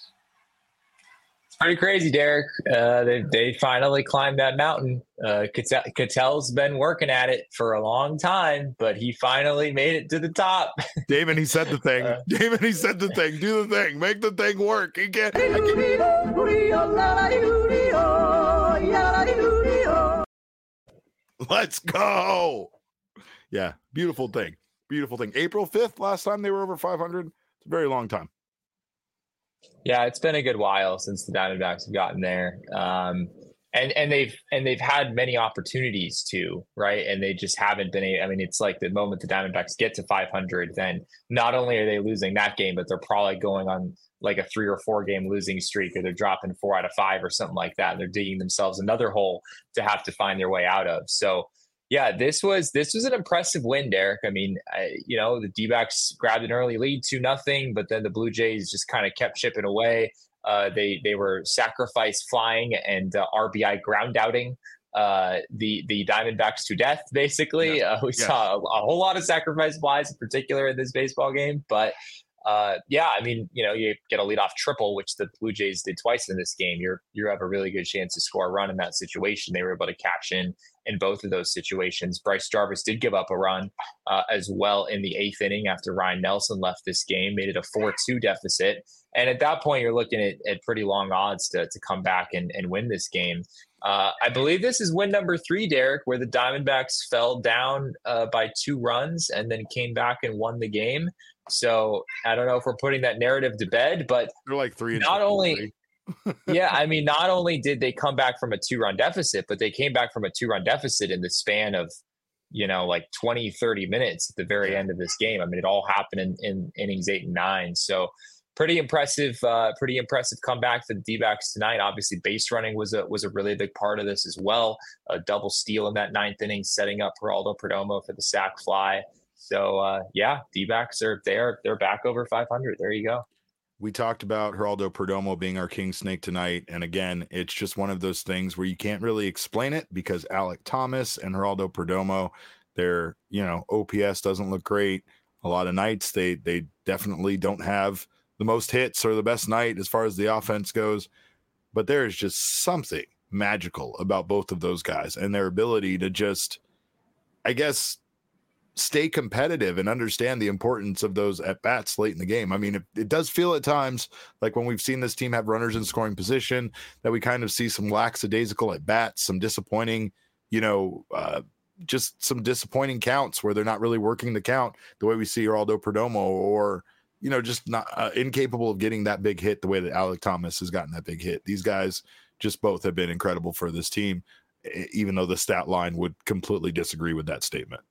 It's pretty crazy, Derek. Uh, they they finally climbed that mountain. Uh, Cattell, Cattell's been working at it for a long time, but he finally made it to the top. Damon, he said the thing. Uh, Damon, he said the thing. Do the thing. Make the thing work. He can't. I can't. Let's go. Yeah, beautiful thing. Beautiful thing. April fifth, last time they were over five hundred. It's a very long time. Yeah, it's been a good while since the Diamondbacks have gotten there. Um, and and they've and they've had many opportunities to, right? And they just haven't been able, I mean, it's like the moment the Diamondbacks get to five hundred, then not only are they losing that game, but they're probably going on like a three or four game losing streak, or they're dropping four out of five or something like that. And they're digging themselves another hole to have to find their way out of. So yeah, this was this was an impressive win, Derek. I mean, I, you know, the D-backs grabbed an early lead two nothing, but then the Blue Jays just kind of kept chipping away. Uh, they they were sacrifice flying and uh, R B I ground outing uh, the the Diamondbacks to death. Basically, yeah. uh, we yeah. saw a, a whole lot of sacrifice flies in particular in this baseball game, but uh, yeah, I mean, you know, you get a leadoff triple, which the Blue Jays did twice in this game. You're you have a really good chance to score a run in that situation. They were able to cash in in both of those situations. Bryce Jarvis did give up a run uh, as well in the eighth inning after Ryan Nelson left this game, made it a four two deficit. And at that point, you're looking at, at pretty long odds to to come back and, and win this game. Uh, I believe this is win number three, Derek, where the Diamondbacks fell down uh, by two runs and then came back and won the game. So I don't know if we're putting that narrative to bed, but they're like three. And not only, yeah, I mean, not only did they come back from a two-run deficit, but they came back from a two-run deficit in the span of, you know, like twenty, thirty minutes at the very end of this game. I mean, it all happened in, in innings eight and nine. So pretty impressive, uh, pretty impressive comeback for the D-backs tonight. Obviously, base running was a was a really big part of this as well. A double steal in that ninth inning, setting up Geraldo Perdomo for the sac fly. So uh, yeah, D-backs are there. They're back over five hundred. There you go. We talked about Geraldo Perdomo being our king snake tonight, and again, it's just one of those things where you can't really explain it because Alek Thomas and Geraldo Perdomo, their you know O P S doesn't look great. A lot of nights they they definitely don't have the most hits or the best night as far as the offense goes, but there is just something magical about both of those guys and their ability to just, I guess, stay competitive and understand the importance of those at bats late in the game. I mean, it, it does feel at times like when we've seen this team have runners in scoring position that we kind of see some lackadaisical at bats, some disappointing, you know, uh, just some disappointing counts where they're not really working the count the way we see Geraldo Perdomo, or you know, just not uh, incapable of getting that big hit the way that Alek Thomas has gotten that big hit. These guys just both have been incredible for this team, even though the stat line would completely disagree with that statement.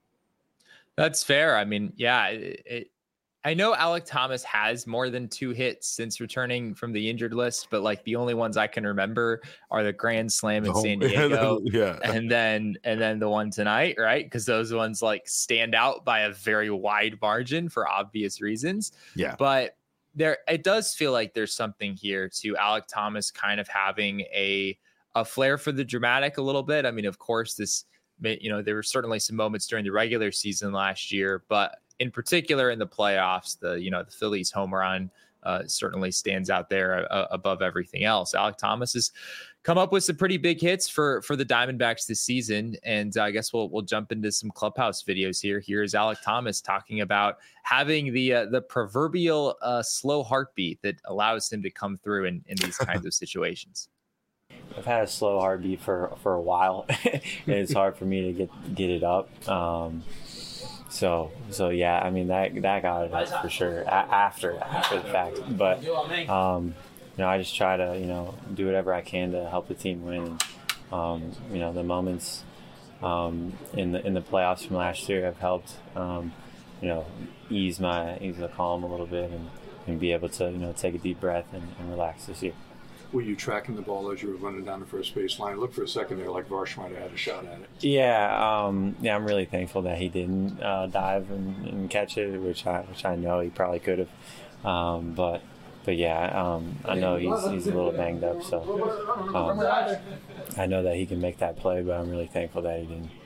That's fair. I mean, yeah, it, it, I know Alek Thomas has more than two hits since returning from the injured list, but like the only ones I can remember are the grand slam in Oh, San Diego, yeah, and then and then the one tonight, right? Because those ones like stand out by a very wide margin for obvious reasons. Yeah, but there, it does feel like there's something here to Alek Thomas kind of having a a flair for the dramatic a little bit. I mean, of course, this, you know, there were certainly some moments during the regular season last year, but in particular in the playoffs, the, you know, the Phillies home run uh, certainly stands out there uh, above everything else. Alek Thomas has come up with some pretty big hits for, for the Diamondbacks this season. And uh, I guess we'll, we'll jump into some clubhouse videos here. Here's Alek Thomas talking about having the, uh, the proverbial uh, slow heartbeat that allows him to come through in, in these kinds of situations. I've had a slow heartbeat for, for a while, and it's hard for me to get get it up. Um, so so yeah, I mean that that got it for sure a- after after the fact. But um, you know, I just try to you know do whatever I can to help the team win. Um, you know, the moments um, in the in the playoffs from last year have helped um, you know ease my ease the calm a little bit and, and be able to you know take a deep breath and, and relax this year. Were you tracking the ball as you were running down the first base line? Look for a second there like Varsh might have had a shot at it. Yeah, um, yeah, I'm really thankful that he didn't uh, dive and, and catch it, which I which I know he probably could have. Um, but but yeah, um, I know he's he's a little banged up, so um, I know that he can make that play, but I'm really thankful that he didn't.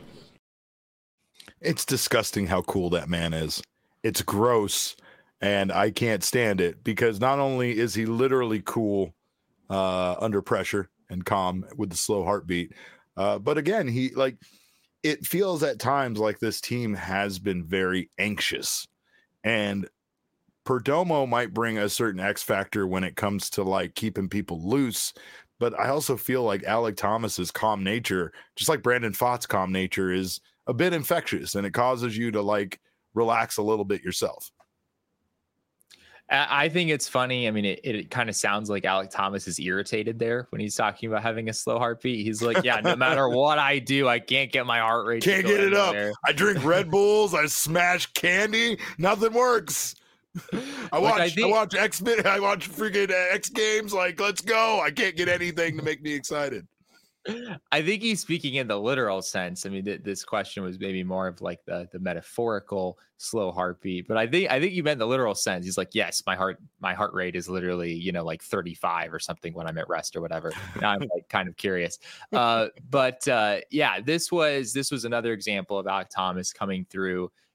It's disgusting how cool that man is. It's gross, and I can't stand it because not only is he literally cool uh under pressure and calm with the slow heartbeat, uh but again, he like it feels at times like this team has been very anxious, and Perdomo might bring a certain X factor when it comes to like keeping people loose, but I also feel like Alek Thomas's calm nature, just like Brandon Pfaadt's calm nature, is a bit infectious, and it causes you to like relax a little bit yourself. I think it's funny. I mean, it, it kind of sounds like Alek Thomas is irritated there when he's talking about having a slow heartbeat. He's like, yeah, no matter what I do, I can't get my heart rate. Can't get it up. There. I drink Red Bulls. I smash candy. Nothing works. I watch, I, think, I watch X, I watch freaking X Games. Like, let's go. I can't get anything to make me excited. I think he's speaking in the literal sense. I mean, th- this question was maybe more of like the the metaphorical slow heartbeat, but I think I think you meant the literal sense. He's like, yes, my heart my heart rate is literally you know like thirty-five or something when I'm at rest or whatever. Now I'm like kind of curious, uh, but uh, yeah, this was this was another example of Alek Thomas coming through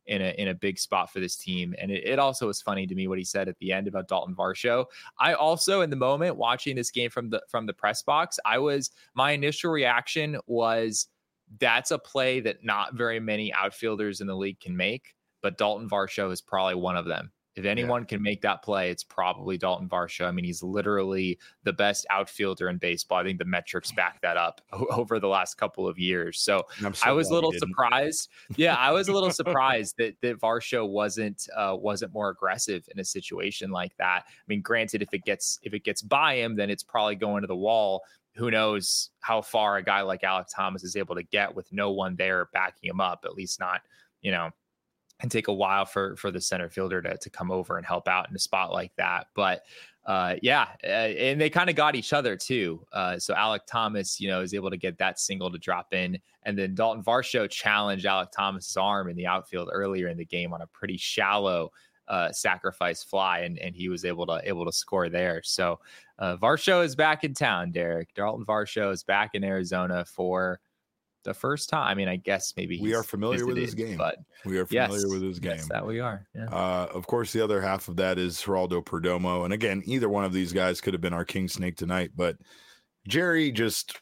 in a in a big spot for this team. And it, it also was funny to me what he said at the end about Dalton Varsho. I also, in the moment watching this game from the from the press box, I was my initial reaction was that's a play that not very many outfielders in the league can make, but Dalton Varsho is probably one of them. If anyone yeah. can make that play, it's probably Dalton Varsho. I mean, he's literally the best outfielder in baseball. I think the metrics back that up over the last couple of years. So, so I was a little surprised. Yeah, I was a little surprised that that Varsho wasn't uh, wasn't more aggressive in a situation like that. I mean, granted, if it gets if it gets by him, then it's probably going to the wall. Who knows how far a guy like Alek Thomas is able to get with no one there backing him up, at least not, you know, and take a while for, for the center fielder to, to come over and help out in a spot like that. But uh, yeah, uh, and they kind of got each other too. Uh, so Alek Thomas, you know, is able to get that single to drop in. And then Dalton Varsho challenged Alek Thomas's arm in the outfield earlier in the game on a pretty shallow uh, sacrifice fly. And, and he was able to, able to score there. So uh, Varsho is back in town, Derek. Dalton Varsho is back in Arizona for the first time. I mean, I guess maybe we are familiar visited, with his game, but we are familiar yes, with his game. Yes, that we are. Yeah. Uh, of course, the other half of that is Geraldo Perdomo. And again, either one of these guys could have been our king snake tonight, but Jerry just,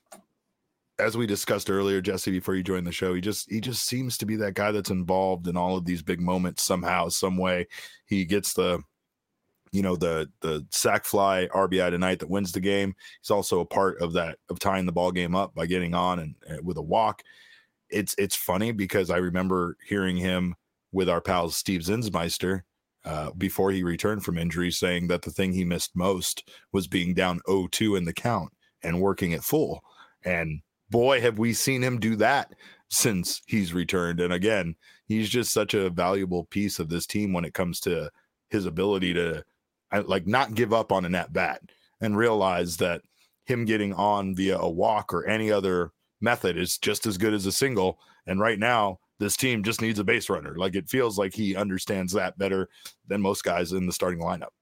as we discussed earlier, Jesse, before you joined the show, he just, he just seems to be that guy that's involved in all of these big moments somehow, some way. He gets the, you know, the the sac fly R B I tonight that wins the game. He's also a part of that, of tying the ball game up by getting on and, and with a walk. It's it's funny because I remember hearing him with our pal Steve Zinsmeister uh, before he returned from injury, saying that the thing he missed most was being down oh two in the count and working at full. And boy, have we seen him do that since he's returned. And again, he's just such a valuable piece of this team when it comes to his ability to, I, like, not give up on an at bat and realize that him getting on via a walk or any other method is just as good as a single. And right now, this team just needs a base runner. Like, it feels like he understands that better than most guys in the starting lineup.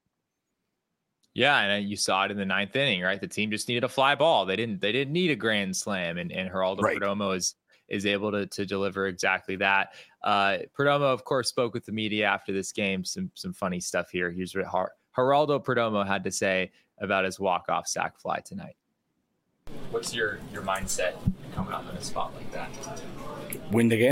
Yeah, and you saw it in the ninth inning, right? The team just needed a fly ball. They didn't. They didn't need a grand slam, and and Geraldo right. Perdomo is is able to to deliver exactly that. Uh, Perdomo, of course, spoke with the media after this game. Some some funny stuff here. Here's what Her- Geraldo Perdomo had to say about his walk-off sac fly tonight. What's your your mindset coming up in a spot like that? Win again.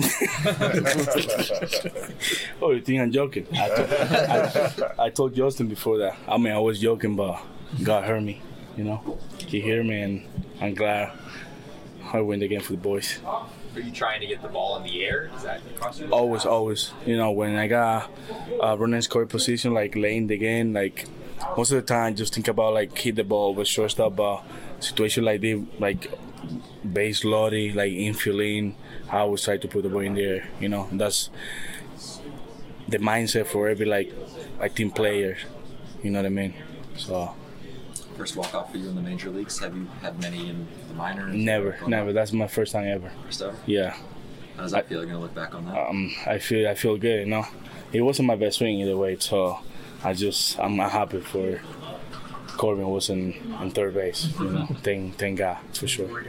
Oh, you think I'm joking? I, told, I, I told Justin before that. I mean, I was joking, but God heard me. You know, He heard me, and I'm glad I win again for the boys. Are you trying to get the ball in the air? Is that across your always, always. You know, when I got a running score position, like late in the game, like most of the time, just think about like hit the ball with shortstop. But situation like this, like base loading, like infielding, I always try to put the ball in there. You know, and that's the mindset for every like like team player. You know what I mean? So. First walk-off for you in the major leagues? Have you had many in the minors? Never, never. That's my first time ever. First ever? Yeah. How does that I, feel? You're going to look back on that? Um, I feel I feel good, you know. It wasn't my best swing either way, so I just, I'm happy for Corbin was in, in third base, you know. Thank, thank God, for sure.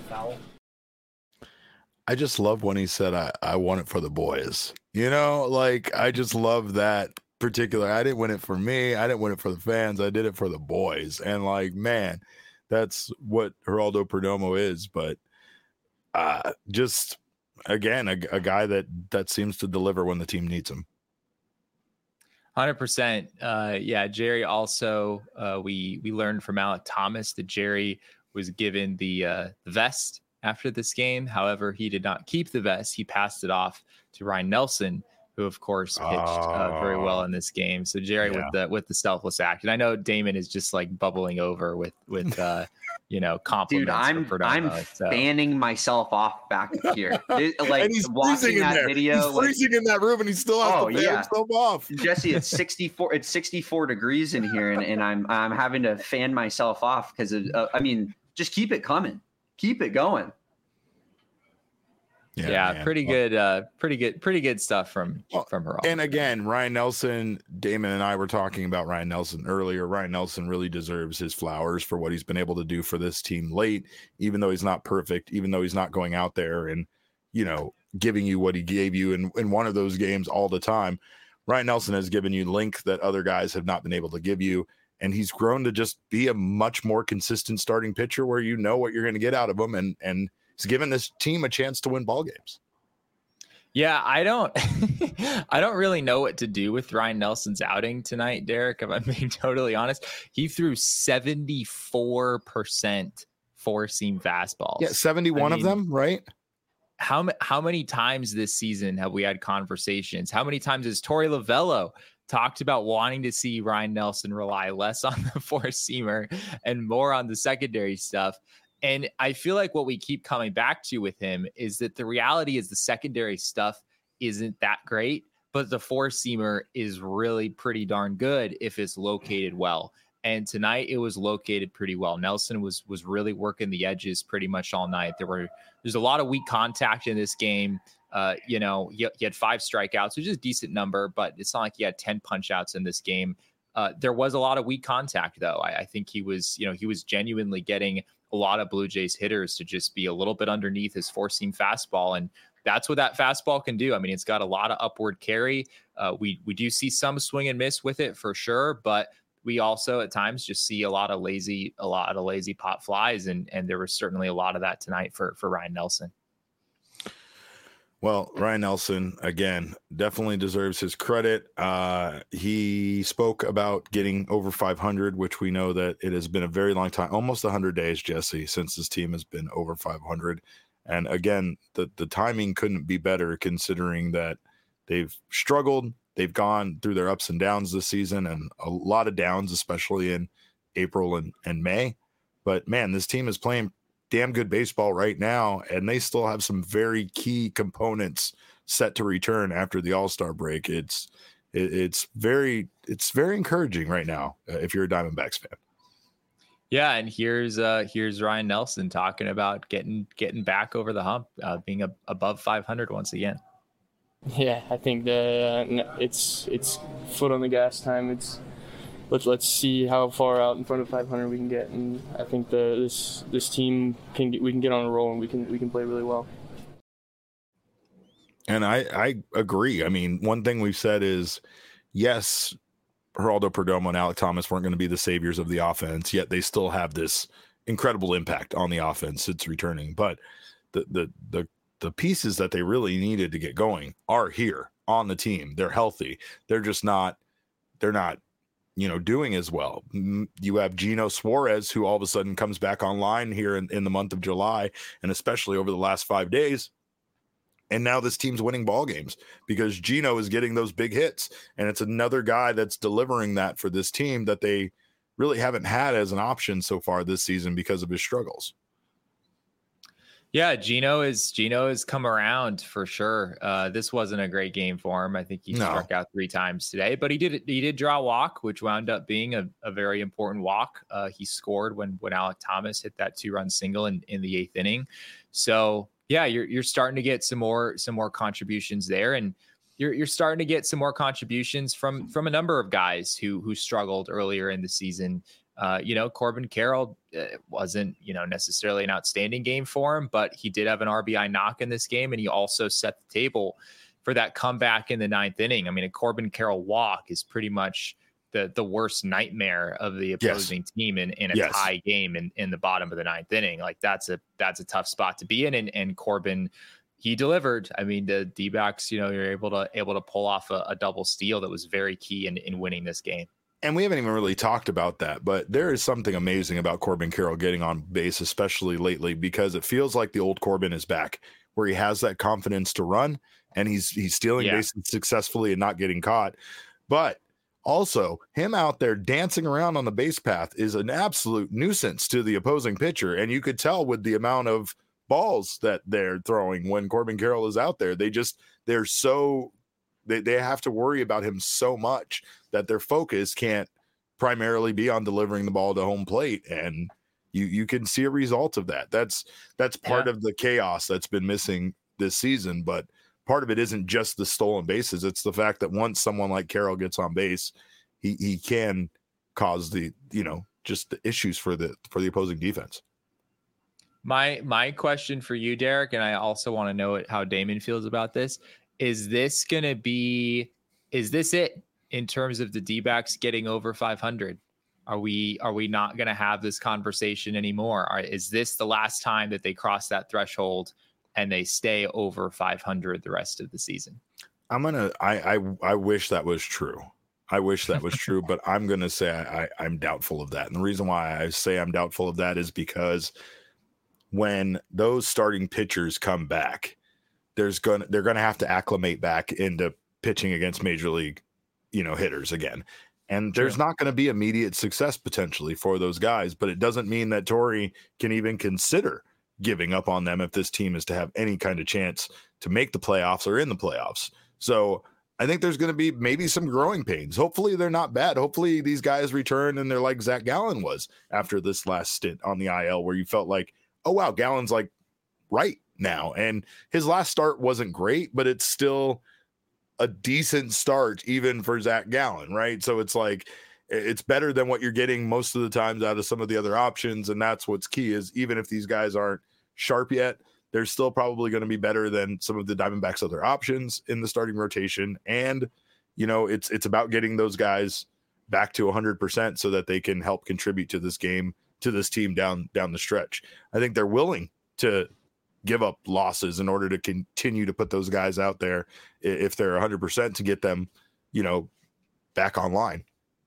I just love when he said, I, I won it for the boys. You know, like, I just love that particular. I didn't win it for me. I didn't win it for the fans. I did it for the boys. And like, man, that's what Geraldo Perdomo is. But uh, just again, a, a guy that that seems to deliver when the team needs him. one hundred percent. Uh, yeah, Jerry also, uh, we we learned from Alek Thomas that Jerry was given the, uh, the vest after this game. However, he did not keep the vest. He passed it off to Ryan Nelson, who of course pitched uh, very well in this game. So Jerry yeah. with the with the selfless act, and I know Damon is just like bubbling over with with uh, you know compliments. Dude, I'm for I'm so. fanning myself off back here. It, like and he's watching that there. video, he's like, freezing in that room, and he still has oh, to fan yeah. himself off. Jesse, it's sixty-four. It's sixty-four degrees in here, and, and I'm I'm having to fan myself off because of. Uh, I mean, just keep it coming, keep it going. Yeah, yeah pretty good, uh, pretty good, pretty good stuff from well, from her. And again, Ryan Nelson, Damon and I were talking about Ryan Nelson earlier. Ryan Nelson really deserves his flowers for what he's been able to do for this team late, even though he's not perfect, even though he's not going out there and, you know, giving you what he gave you in, in one of those games all the time. Ryan Nelson has given you length that other guys have not been able to give you. And he's grown to just be a much more consistent starting pitcher where you know what you're going to get out of him. And, and he's given this team a chance to win ball games. Yeah, I don't I don't really know what to do with Ryan Nelson's outing tonight, Derek, if I'm being totally honest. He threw seventy-four percent four-seam fastballs. Yeah, seventy-one I mean, of them, right? How, how many times this season have we had conversations? How many times has Torey Lovullo talked about wanting to see Ryan Nelson rely less on the four-seamer and more on the secondary stuff? And I feel like what we keep coming back to with him is that the reality is the secondary stuff isn't that great, but the four-seamer is really pretty darn good if it's located well. And tonight it was located pretty well. Nelson was was really working the edges pretty much all night. There were there's a lot of weak contact in this game. Uh, you know, he, he had five strikeouts, which is a decent number, but it's not like he had ten punch outs in this game. Uh, there was a lot of weak contact, though. I, I think he was, you know, he was genuinely getting a lot of Blue Jays hitters to just be a little bit underneath his four-seam fastball. And that's what that fastball can do. I mean, it's got a lot of upward carry. Uh, we, we do see some swing and miss with it for sure, but we also at times just see a lot of lazy, a lot of lazy pop flies. And, and there was certainly a lot of that tonight for, for Ryan Nelson. Well, Ryan Nelson, again, definitely deserves his credit. Uh, he spoke about getting over five hundred, which we know that it has been a very long time, almost one hundred days, Jesse, since this team has been over five hundred. And again, the, the timing couldn't be better considering that they've struggled. They've gone through their ups and downs this season and a lot of downs, especially in April and, and May. But, man, this team is playing damn good baseball right now, and they still have some very key components set to return after the All-Star break. It's it, it's very it's very encouraging right now uh, if you're a Diamondbacks fan. Yeah, and here's uh, here's Ryan Nelson talking about getting getting back over the hump, uh, being a, above five hundred once again. Yeah, I think the uh, it's it's foot on the gas time. It's let's let's see how far out in front of five hundred we can get, and I think the this this team can get, we can get on a roll and we can we can play really well. And I I agree. I mean, one thing we've said is yes, Geraldo Perdomo and Alek Thomas weren't going to be the saviors of the offense, yet they still have this incredible impact on the offense it's returning. But the the the the pieces that they really needed to get going are here on the team. They're healthy. They're just not they're not you know, doing as well. You have Gino Suarez, who all of a sudden comes back online here in, in the month of July, and especially over the last five days. And now this team's winning ball games because Gino is getting those big hits. And it's another guy that's delivering that for this team that they really haven't had as an option so far this season because of his struggles. Yeah, Gino is Gino has come around for sure. Uh, this wasn't a great game for him. I think he no. struck out three times today, but he did he did draw a walk, which wound up being a, a very important walk. Uh, he scored when when Alek Thomas hit that two run single in, in the eighth inning. So yeah, you're you're starting to get some more some more contributions there, and you're you're starting to get some more contributions from from a number of guys who who struggled earlier in the season. Uh, you know, Corbin Carroll uh, wasn't, you know, necessarily an outstanding game for him, but he did have an R B I knock in this game, and he also set the table for that comeback in the ninth inning. I mean, a Corbin Carroll walk is pretty much the the worst nightmare of the opposing yes. team in, in a yes. tie game in, in the bottom of the ninth inning. Like that's a that's a tough spot to be in, and and Corbin, he delivered. I mean, the D-backs, you know, you're able to able to pull off a, a double steal that was very key in, in winning this game. And we haven't even really talked about that, but there is something amazing about Corbin Carroll getting on base, especially lately, because it feels like the old Corbin is back, where he has that confidence to run and he's he's stealing yeah. bases successfully and not getting caught. But also, him out there dancing around on the base path is an absolute nuisance to the opposing pitcher. And you could tell with the amount of balls that they're throwing when Corbin Carroll is out there. They just, they're so, they, they have to worry about him so much that their focus can't primarily be on delivering the ball to home plate. And you you can see a result of that. That's that's part yeah. of the chaos that's been missing this season. But part of it isn't just the stolen bases. It's the fact that once someone like Carroll gets on base, he he can cause the, you know, just the issues for the for the opposing defense. My my question for you, Derek, and I also want to know how Damon feels about this. Is this going to be, is this it in terms of the D-backs getting over five hundred? Are we are we not going to have this conversation anymore? Are, is this the last time that they cross that threshold and they stay over five hundred the rest of the season? I'm gonna. I I I wish that was true. I wish that was true, but I'm gonna say I, I I'm doubtful of that. And the reason why I say I'm doubtful of that is because when those starting pitchers come back, there's gonna they're gonna have to acclimate back into pitching against major league, you know, hitters again. And there's True. not going to be immediate success potentially for those guys, but it doesn't mean that Torey can even consider giving up on them if this team is to have any kind of chance to make the playoffs or in the playoffs. So I think there's going to be maybe some growing pains. Hopefully they're not bad. Hopefully these guys return and they're like Zach Gallen was after this last stint on the I L, where you felt like, oh, wow, Gallen's like right now. And his last start wasn't great, but it's still a decent start even for Zach Gallen, right? So it's like, it's better than what you're getting most of the times out of some of the other options. And that's what's key, is even if these guys aren't sharp yet, they're still probably going to be better than some of the Diamondbacks' other options in the starting rotation. And, you know, it's it's about getting those guys back to one hundred percent so that they can help contribute to this game, to this team down down the stretch. I think they're willing to give up losses in order to continue to put those guys out there if they're one hundred percent to get them, you know, back online.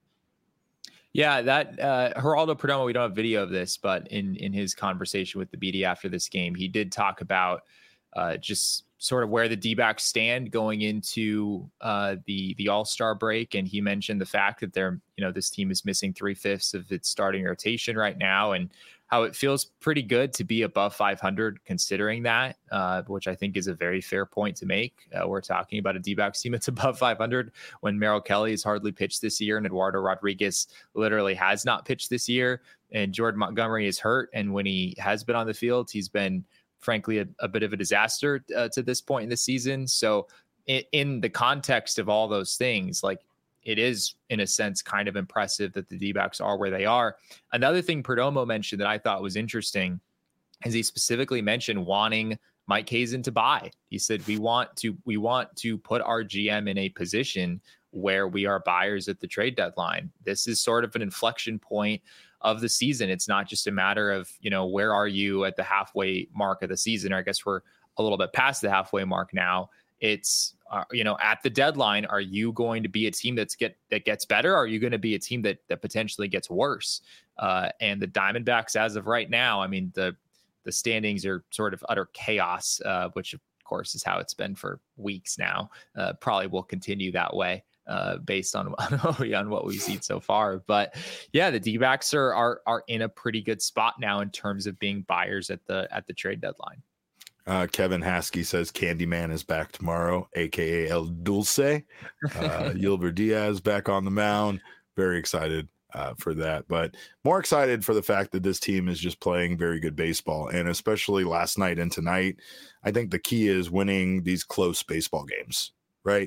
Yeah, that uh, Geraldo Perdomo, we don't have video of this, but in, in his conversation with the B D after this game, he did talk about uh, just sort of where the D-backs stand going into uh, the the All-Star break. And he mentioned the fact that they're, you know, this team is missing three-fifths of its starting rotation right now, and how it feels pretty good to be above five hundred considering that, uh, which I think is a very fair point to make. Uh, we're talking about a D-backs team that's above five hundred when Merrill Kelly has hardly pitched this year and Eduardo Rodriguez literally has not pitched this year, and Jordan Montgomery is hurt. And when he has been on the field, he's been, frankly, a, a bit of a disaster uh, to this point in the season. So in, in the context of all those things, like, it is, in a sense, kind of impressive that the D-backs are where they are. Another thing Perdomo mentioned that I thought was interesting is he specifically mentioned wanting Mike Hazen to buy. He said, we want to we want to put our G M in a position where we are buyers at the trade deadline. This is sort of an inflection point of the season. It's not just a matter of, you know, where are you at the halfway mark of the season, or I guess we're a little bit past the halfway mark now. It's, uh, you know, at the deadline, are you going to be a team that's get that gets better? Or are you going to be a team that that potentially gets worse? Uh, and the Diamondbacks, as of right now, I mean, the the standings are sort of utter chaos, uh, which of course is how it's been for weeks now. Uh, probably will continue that way uh, based on on what we've seen so far. But yeah, the D-backs are are are in a pretty good spot now in terms of being buyers at the at the trade deadline. Uh, Kevin Haskey says Candyman is back tomorrow, a k a. El Dulce. Uh, Yulber Diaz back on the mound. Very excited uh, for that. But more excited for the fact that this team is just playing very good baseball. And especially last night and tonight, I think the key is winning these close baseball games, right?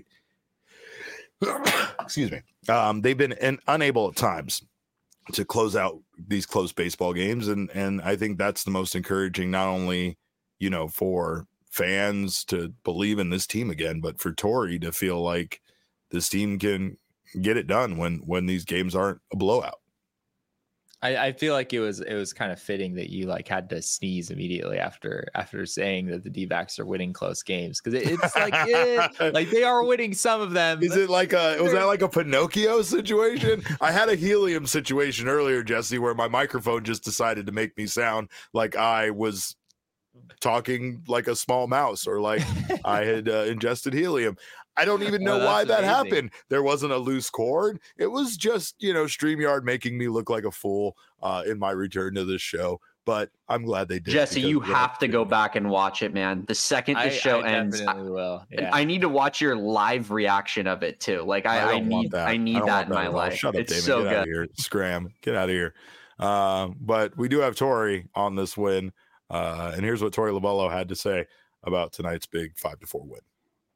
Excuse me. Um, they've been in, unable at times to close out these close baseball games. And, and I think that's the most encouraging, not only you know, for fans to believe in this team again, but for Torey to feel like this team can get it done when, when these games aren't a blowout. I, I feel like it was, it was kind of fitting that you like had to sneeze immediately after, after saying that the D-backs are winning close games. Cause it, it's like, yeah, like they are winning some of them. Is it like a, was that like a Pinocchio situation? I had a helium situation earlier, Jesse, where my microphone just decided to make me sound like I was talking like a small mouse, or like I had uh, ingested helium. I don't even know well, why that amazing. happened. There wasn't a loose cord. It was just, you know, StreamYard making me look like a fool uh, in my return to this show. But I'm glad they did. Jesse, you have to go back and watch it, man. The second the I, show I ends, I, will. Yeah. I need to watch your live reaction of it too. Like I, I, I need, that. I need I that in my life. Shut up, it's David. so Get good. Out of here. Scram. Get out of here. Uh, but we do have Torey on this win. Uh, and here's what Torey Lovullo had to say about tonight's big five to four win.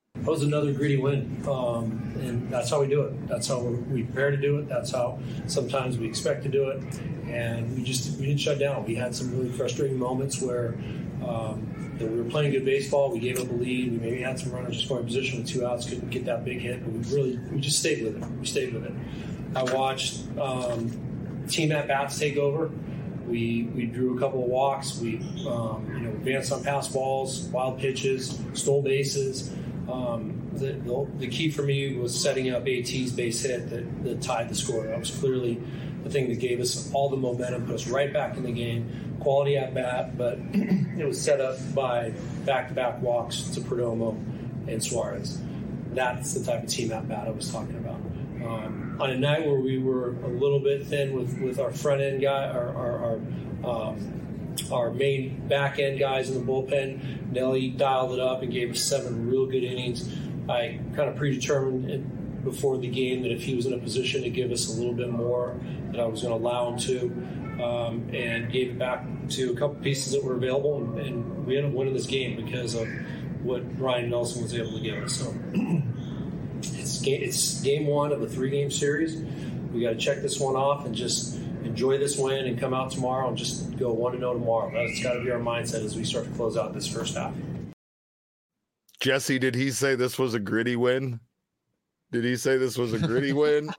That was another gritty win, um, and that's how we do it. That's how we're, we prepare to do it. That's how sometimes we expect to do it, and we just we didn't shut down. We had some really frustrating moments where um, you know, we were playing good baseball. We gave up a lead. We maybe had some runners in scoring position with two outs, couldn't get that big hit, but we really we just stayed with it. We stayed with it. I watched um, team at bats take over. We we drew a couple of walks. We um, you know advanced on pass balls, wild pitches, stole bases. Um, the, the, the key for me was setting up A T's base hit that, that tied the score. That was clearly the thing that gave us all the momentum, put us right back in the game. Quality at bat, but it was set up by back-to-back walks to Perdomo and Suarez. That's the type of team at bat I was talking about. Um, on a night where we were a little bit thin with, with our front end guy, our our, our, um, our main back end guys in the bullpen, Nelly dialed it up and gave us seven real good innings. I kind of predetermined before the game that if he was in a position to give us a little bit more, that I was going to allow him to, um, and gave it back to a couple pieces that were available, and, and we ended up winning this game because of what Ryan Nelson was able to give us. So it's game, it's game one of a three-game series. We got to check this one off and just enjoy this win and come out tomorrow and just go one and zero tomorrow. That's got to be our mindset as we start to close out this first half. Jesse, did he say this was a gritty win? Did he say this was a gritty win?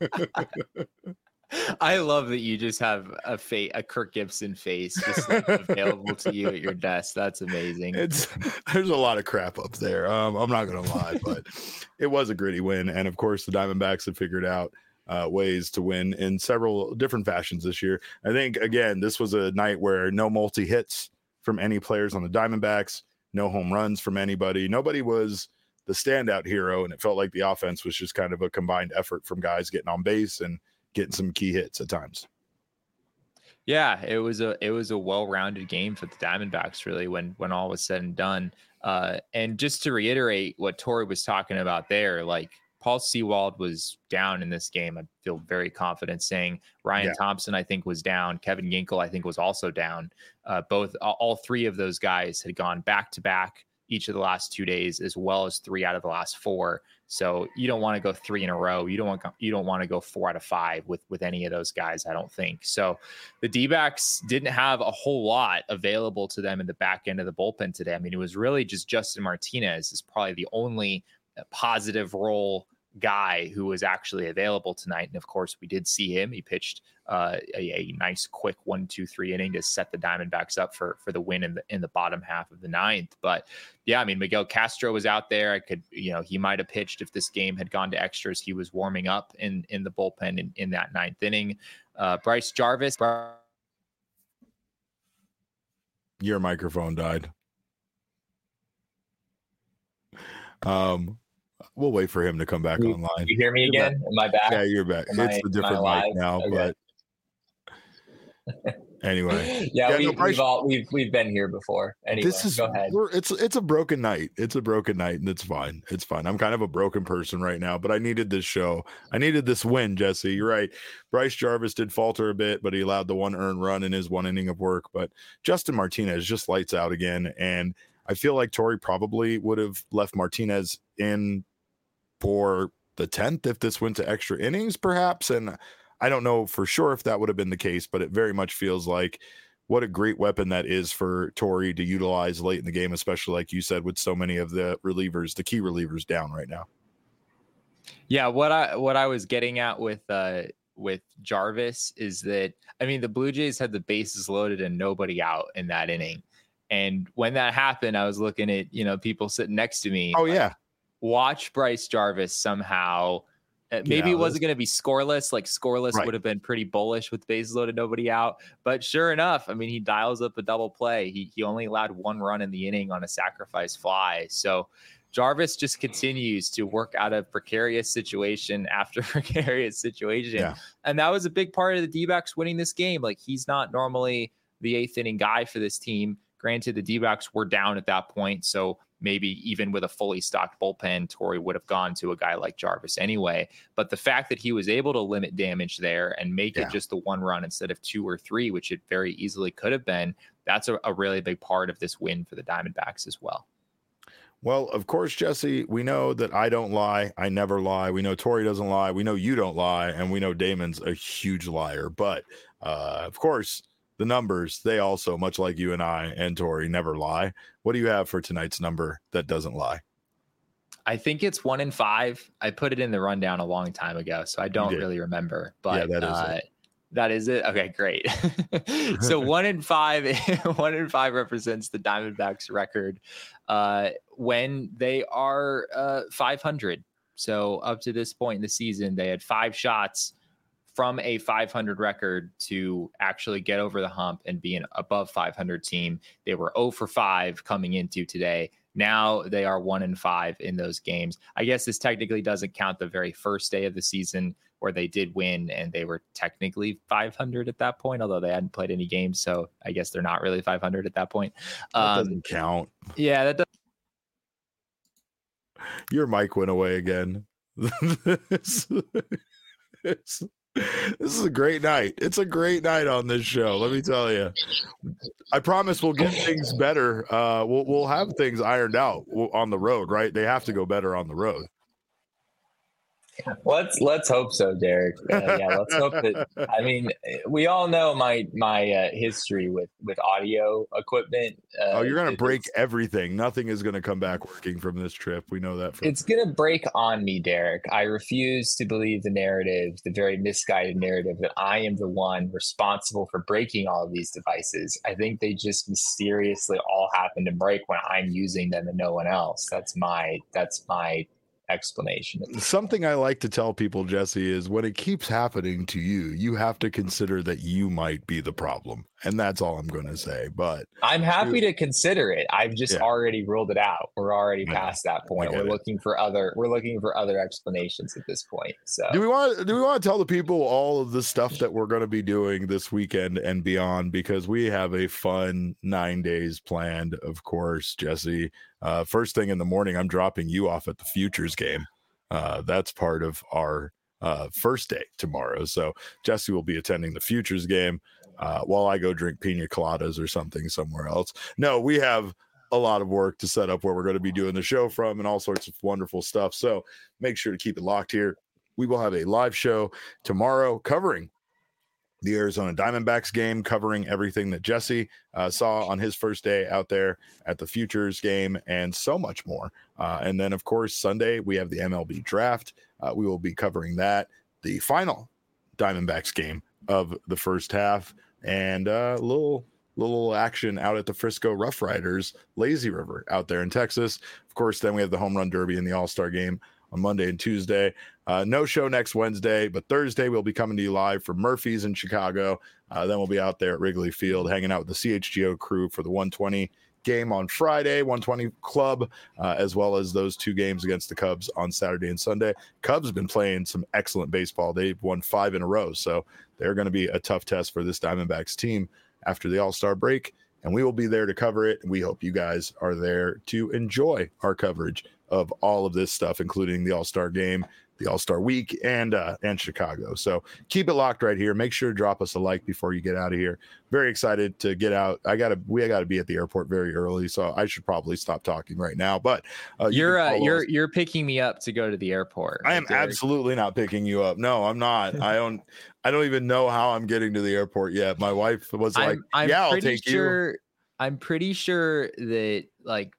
I love that you just have a fa- a Kirk Gibson face just like, available to you at your desk. That's amazing. It's there's a lot of crap up there. Um, I'm not gonna lie, but it was a gritty win, and of course the Diamondbacks have figured out uh, ways to win in several different fashions this year. I think again this was a night where no multi hits from any players on the Diamondbacks, no home runs from anybody. Nobody was the standout hero, and it felt like the offense was just kind of a combined effort from guys getting on base and getting some key hits at times. Yeah, it was a it was a well-rounded game for the Diamondbacks, really, when when all was said and done. Uh, and just to reiterate what Tori was talking about there, like Paul Sewald was down in this game. I feel very confident saying Ryan yeah. Thompson, I think, was down. Kevin Ginkel, I think, was also down. Uh, both all three of those guys had gone back to back each of the last two days, as well as three out of the last four. So you don't want to go three in a row. You don't want you don't want to go four out of five with with any of those guys, I don't think. So the D-backs didn't have a whole lot available to them in the back end of the bullpen today. I mean, it was really just Justin Martinez is probably the only positive role guy who was actually available tonight. And of course, we did see him. He pitched uh, a, a nice, quick one, two, three inning to set the Diamondbacks up for for the win in the in the bottom half of the ninth. But yeah, I mean, Miguel Castro was out there. I could, you know, he might have pitched if this game had gone to extras. He was warming up in in the bullpen in, in that ninth inning. Uh, Bryce Jarvis. Your microphone died. Um. We'll wait for him to come back you, online. You hear me you're again? Back. Am I back? Yeah, you're back. Am it's I, a different mic now, okay. But anyway. yeah, yeah we, no, Bryce, we've all we've we've been here before. Anyway, this is go ahead. We're, it's it's a broken night. It's a broken night, and it's fine. It's fine. I'm kind of a broken person right now, but I needed this show. I needed this win, Jesse. You're right. Bryce Jarvis did falter a bit, but he allowed the one earned run in his one inning of work. But Justin Martinez just lights out again, and I feel like Tori probably would have left Martinez in for the tenth if this went to extra innings, perhaps. And I don't know for sure if that would have been the case, but it very much feels like what a great weapon that is for Tori to utilize late in the game, especially like you said, with so many of the relievers, the key relievers down right now. Yeah, what I what I was getting at with uh with Jarvis is that, I mean, the Blue Jays had the bases loaded and nobody out in that inning. And when that happened, I was looking at, you know, people sitting next to me. Oh, yeah. Watch Bryce Jarvis somehow. Maybe yeah, it wasn't going to be scoreless. Like scoreless right. would have been pretty bullish with bases loaded, nobody out. But sure enough, I mean, he dials up a double play. He he only allowed one run in the inning on a sacrifice fly. So Jarvis just continues to work out of precarious situation after precarious situation. Yeah. And that was a big part of the D-backs winning this game. Like, he's not normally the eighth inning guy for this team. Granted, the D-backs were down at that point, so maybe even with a fully stocked bullpen, Tori would have gone to a guy like Jarvis anyway. But the fact that he was able to limit damage there and make yeah. it just the one run instead of two or three, which it very easily could have been, that's a, a really big part of this win for the Diamondbacks as well. Well, of course, Jesse, we know that I don't lie. I never lie. We know Tori doesn't lie. We know you don't lie. And we know Damon's a huge liar. But, uh, of course, the numbers, they also, much like you and I and Tori, never lie. What do you have for tonight's number that doesn't lie? I think it's one in five. I put it in the rundown a long time ago, so I don't really remember. But yeah, that is uh, it. That is it. Okay, great. So one in five, one in five represents the Diamondbacks record uh, when they are uh, five hundred. So up to this point in the season, they had five shots from a five hundred record to actually get over the hump and be an above five hundred team. They were zero for five coming into today. Now they are one in five in those games. I guess this technically doesn't count the very first day of the season where they did win and they were technically five hundred at that point, although they hadn't played any games. So I guess they're not really five hundred at that point. That Um, doesn't count. yeah, that does. Your mic went away again. It's- it's- this is a great night. It's a great night on this show. Let me tell you. I promise we'll get things better. Uh, we'll we'll have things ironed out on the road, right? They have to go better on the road. Let's let's hope so, Derek. Uh, yeah, let's hope that. I mean, we all know my my uh, history with with audio equipment. Uh, Oh, you're gonna it- break it's- everything. Nothing is gonna come back working from this trip. We know that. For It's going to break on me, Derek. I refuse to believe the narrative, the very misguided narrative that I am the one responsible for breaking all of these devices. I think they just mysteriously all happen to break when I'm using them and no one else. That's my that's my explanation. Something I like to tell people, Jesse, is when it keeps happening to you, you have to consider that you might be the problem. And that's all I'm going to say. But I'm happy to consider it. I've just Yeah. already ruled it out. We're already I know. past that point. I get We're it. looking for other we're looking for other explanations at this point. So do we want do we want to tell the people all of the stuff that we're going to be doing this weekend and beyond? Because we have a fun nine days planned, of course, Jesse. Uh, first thing in the morning, I'm dropping you off at the Futures game. Uh, that's part of our uh, first day tomorrow. So Jesse will be attending the Futures game uh, while I go drink pina coladas or something somewhere else. No, we have a lot of work to set up where we're going to be doing the show from and all sorts of wonderful stuff. So make sure to keep it locked here. We will have a live show tomorrow covering the Arizona Diamondbacks game, covering everything that Jesse uh, saw on his first day out there at the Futures game and so much more. Uh, and then, of course, Sunday, we have the M L B draft. Uh, we will be covering that, the final Diamondbacks game of the first half, and a uh, little little action out at the Frisco Rough Riders Lazy River out there in Texas. Of course, then we have the Home Run Derby and the All-Star game on Monday and Tuesday. Uh, no show next Wednesday, but Thursday we'll be coming to you live from Murphy's in Chicago. Uh, then we'll be out there at Wrigley Field hanging out with the C H G O crew for the one twenty game on Friday, one twenty Club, uh, as well as those two games against the Cubs on Saturday and Sunday. Cubs have been playing some excellent baseball. They've won five in a row, so they're going to be a tough test for this Diamondbacks team after the All-Star break, and we will be there to cover it. We hope you guys are there to enjoy our coverage of all of this stuff, including the All-Star game, the All-Star week, and uh, and Chicago. So keep it locked right here. Make sure to drop us a like before you get out of here. Very excited to get out. I gotta we gotta be at the airport very early, so I should probably stop talking right now. But uh, you you're can uh, follow you're us. you're picking me up to go to the airport. I am Derek. absolutely not picking you up. No, I'm not. I don't. I don't even know how I'm getting to the airport yet. My wife was like, I'm, I'm "Yeah, I'll pretty take you." sure, I'm pretty sure that like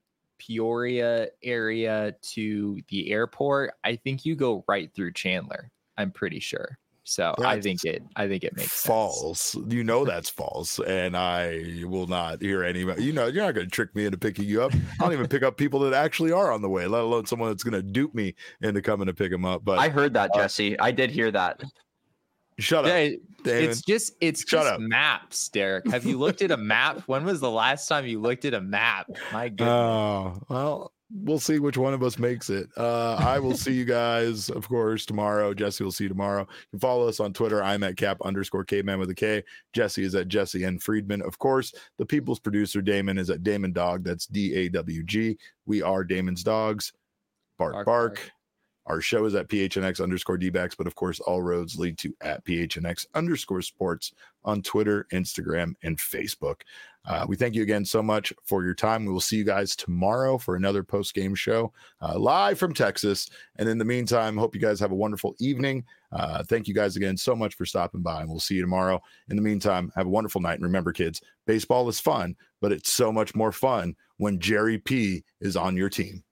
Peoria area to the airport, I think you go right through Chandler. I'm pretty sure. So I That's think it. I think it makes sense. false. You know that's false, and I will not hear any. You know, you're not going to trick me into picking you up. I don't even pick up people that actually are on the way, let alone someone that's going to dupe me into coming to pick them up. But I heard that, uh, Jesse. I did hear that. shut up. Yeah, Damon. it's just it's Shut just up. maps, Derek. Have you looked at a map? When was the last time you looked at a map? My goodness. Oh, well, we'll see which one of us makes it. Uh, I will see you guys, of course, tomorrow. Jesse will see you tomorrow. You can follow us on Twitter. I'm at cap underscore caveman with a K. Jesse is at Jesse N. Friedman. Of course, the people's producer, Damon, is at Damon Dog. That's D A W G. We are Damon's Dogs. Bark, bark. Bark, bark. Our show is at P H N X underscore D-backs, but of course, all roads lead to at P H N X underscore sports on Twitter, Instagram, and Facebook. Uh, we thank you again so much for your time. We will see you guys tomorrow for another post-game show uh, live from Texas. And in the meantime, hope you guys have a wonderful evening. Uh, thank you guys again so much for stopping by, and we'll see you tomorrow. In the meantime, have a wonderful night. And remember, kids, baseball is fun, but it's so much more fun when Jerry P is on your team.